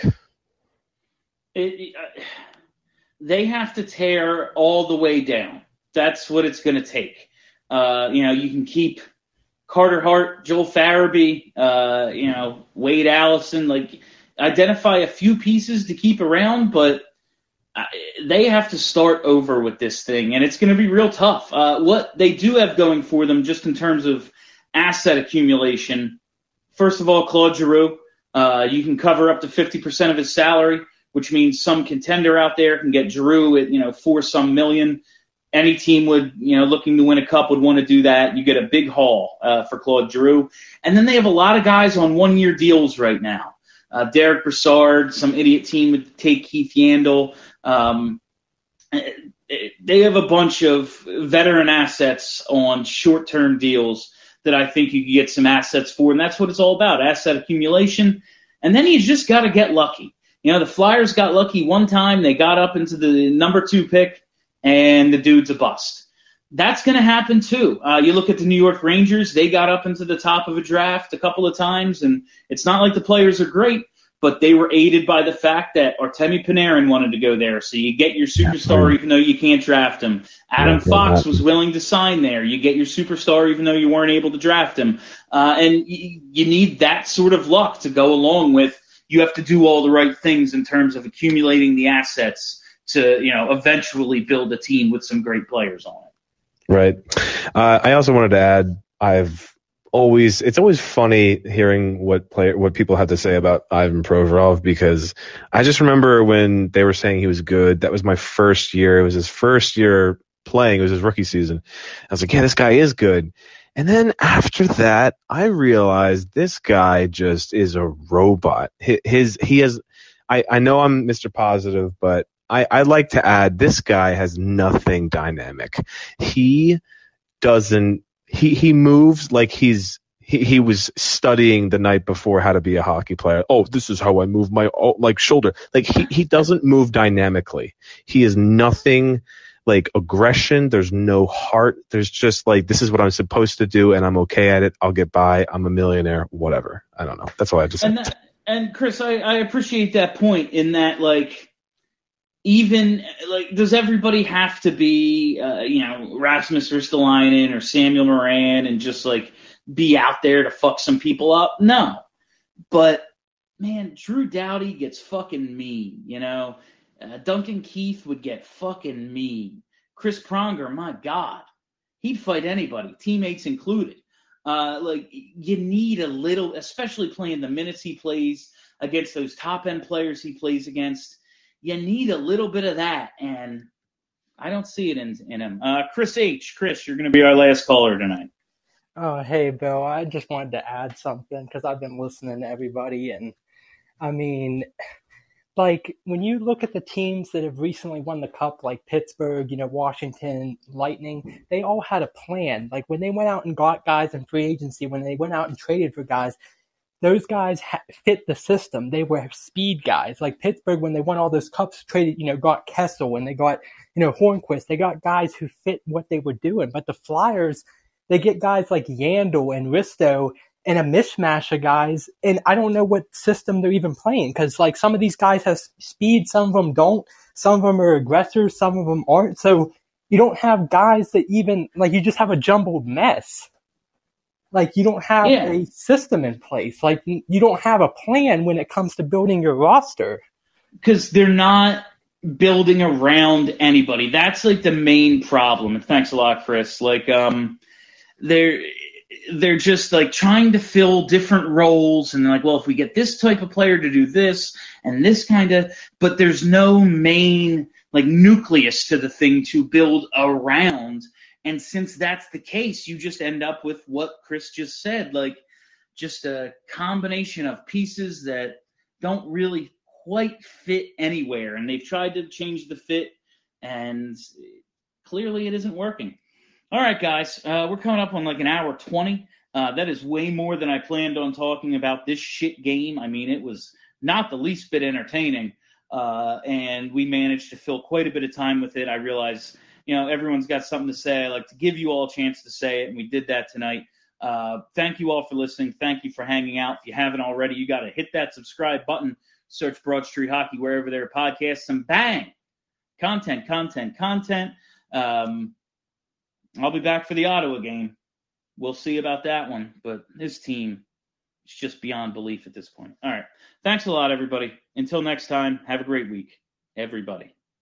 Speaker 5: It, uh, they have to tear all the way down. That's what it's going to take. Uh, you know, you can keep Carter Hart, Joel Farabee, uh, you know, Wade Allison, like identify a few pieces to keep around, but they have to start over with this thing, and it's going to be real tough. Uh, what they do have going for them just in terms of asset accumulation, first of all, Claude Giroux, uh, you can cover up to fifty percent of his salary, which means some contender out there can get Giroux at, you know, four some million. Any team would, you know, looking to win a cup would want to do that. You get a big haul uh, for Claude Giroux. And then they have a lot of guys on one-year deals right now. Uh, Derek Brassard, some idiot team would take Keith Yandel. Um, they have a bunch of veteran assets on short-term deals that I think you can get some assets for, and that's what it's all about, asset accumulation. And then you just got to get lucky. You know, the Flyers got lucky one time. They got up into the number two pick, and the dude's a bust. That's going to happen too. Uh, you look at the New York Rangers, they got up into the top of a draft a couple of times, and it's not like the players are great, but they were aided by the fact that Artemi Panarin wanted to go there. So you get your superstar even though you can't draft him. Adam Fox was willing to sign there. You get your superstar even though you weren't able to draft him. Uh, and y- you need that sort of luck to go along with. You have to do all the right things in terms of accumulating the assets to, you know, eventually build a team with some great players on it.
Speaker 20: Right. Uh, I also wanted to add, I've always it's always funny hearing what player what people have to say about Ivan Provorov, because I just remember when they were saying he was good. That was my first year. It was his first year playing. It was his rookie season. I was like, yeah, this guy is good. And then after that, I realized this guy just is a robot. His, his he has. I, I know I'm Mister Positive, but I, I like to add this guy has nothing dynamic. He doesn't. He he moves like he's he, he was studying the night before how to be a hockey player. Oh, this is how I move my oh, like shoulder. Like he he doesn't move dynamically. He is nothing like aggression. There's no heart. There's just like, this is what I'm supposed to do and I'm okay at it. I'll get by. I'm a millionaire. Whatever. I don't know. That's all I have to say.
Speaker 5: And that, and Chris, I, I appreciate that point in that, like, even like, does everybody have to be, uh, you know, Rasmus Ristolainen or Samuel Moran and just like be out there to fuck some people up? No, but man, Drew Doughty gets fucking mean, you know. Uh, Duncan Keith would get fucking mean. Chris Pronger, my God, he'd fight anybody, teammates included. Uh, like, you need a little, especially playing the minutes he plays against those top-end players he plays against, you need a little bit of that, and I don't see it in, in him. Uh, Chris H. Chris, you're going to be our last caller tonight.
Speaker 7: Oh, hey, Bill. I just wanted to add something because I've been listening to everybody, and I mean, like, when you look at the teams that have recently won the cup, like Pittsburgh, you know, Washington, Lightning, they all had a plan. Like, when they went out and got guys in free agency, when they went out and traded for guys, those guys ha- fit the system. They were speed guys. Like Pittsburgh, when they won all those cups, traded, you know, got Kessel, and they got, you know, Hornquist. They got guys who fit what they were doing. But the Flyers, they get guys like Yandel and Risto and a mishmash of guys, and I don't know what system they're even playing, because like some of these guys have speed, some of them don't, some of them are aggressors, some of them aren't. So you don't have guys that even, like, you just have a jumbled mess. Like, you don't have
Speaker 5: Yeah.
Speaker 7: a system in place. Like, you don't have a plan when it comes to building your roster.
Speaker 5: Because they're not building around anybody. That's like the main problem. And thanks a lot, Chris. Like, um, they're they're just like trying to fill different roles, and they're like, well, if we get this type of player to do this and this kind of, but there's no main like nucleus to the thing to build around. And since that's the case, you just end up with what Chris just said, like just a combination of pieces that don't really quite fit anywhere. And they've tried to change the fit, and clearly it isn't working. All right, guys, uh, we're coming up on like an hour twenty. Uh, that is way more than I planned on talking about this shit game. I mean, it was not the least bit entertaining, uh, and we managed to fill quite a bit of time with it. I realize, you know, everyone's got something to say. I like to give you all a chance to say it, and we did that tonight. Uh, thank you all for listening. Thank you for hanging out. If you haven't already, you got to hit that subscribe button, search Broad Street Hockey wherever there are podcasts, and bang, content, content, content. Um, I'll be back for the Ottawa game. We'll see about that one, but this team is just beyond belief at this point. All right. Thanks a lot, everybody. Until next time, have a great week, everybody.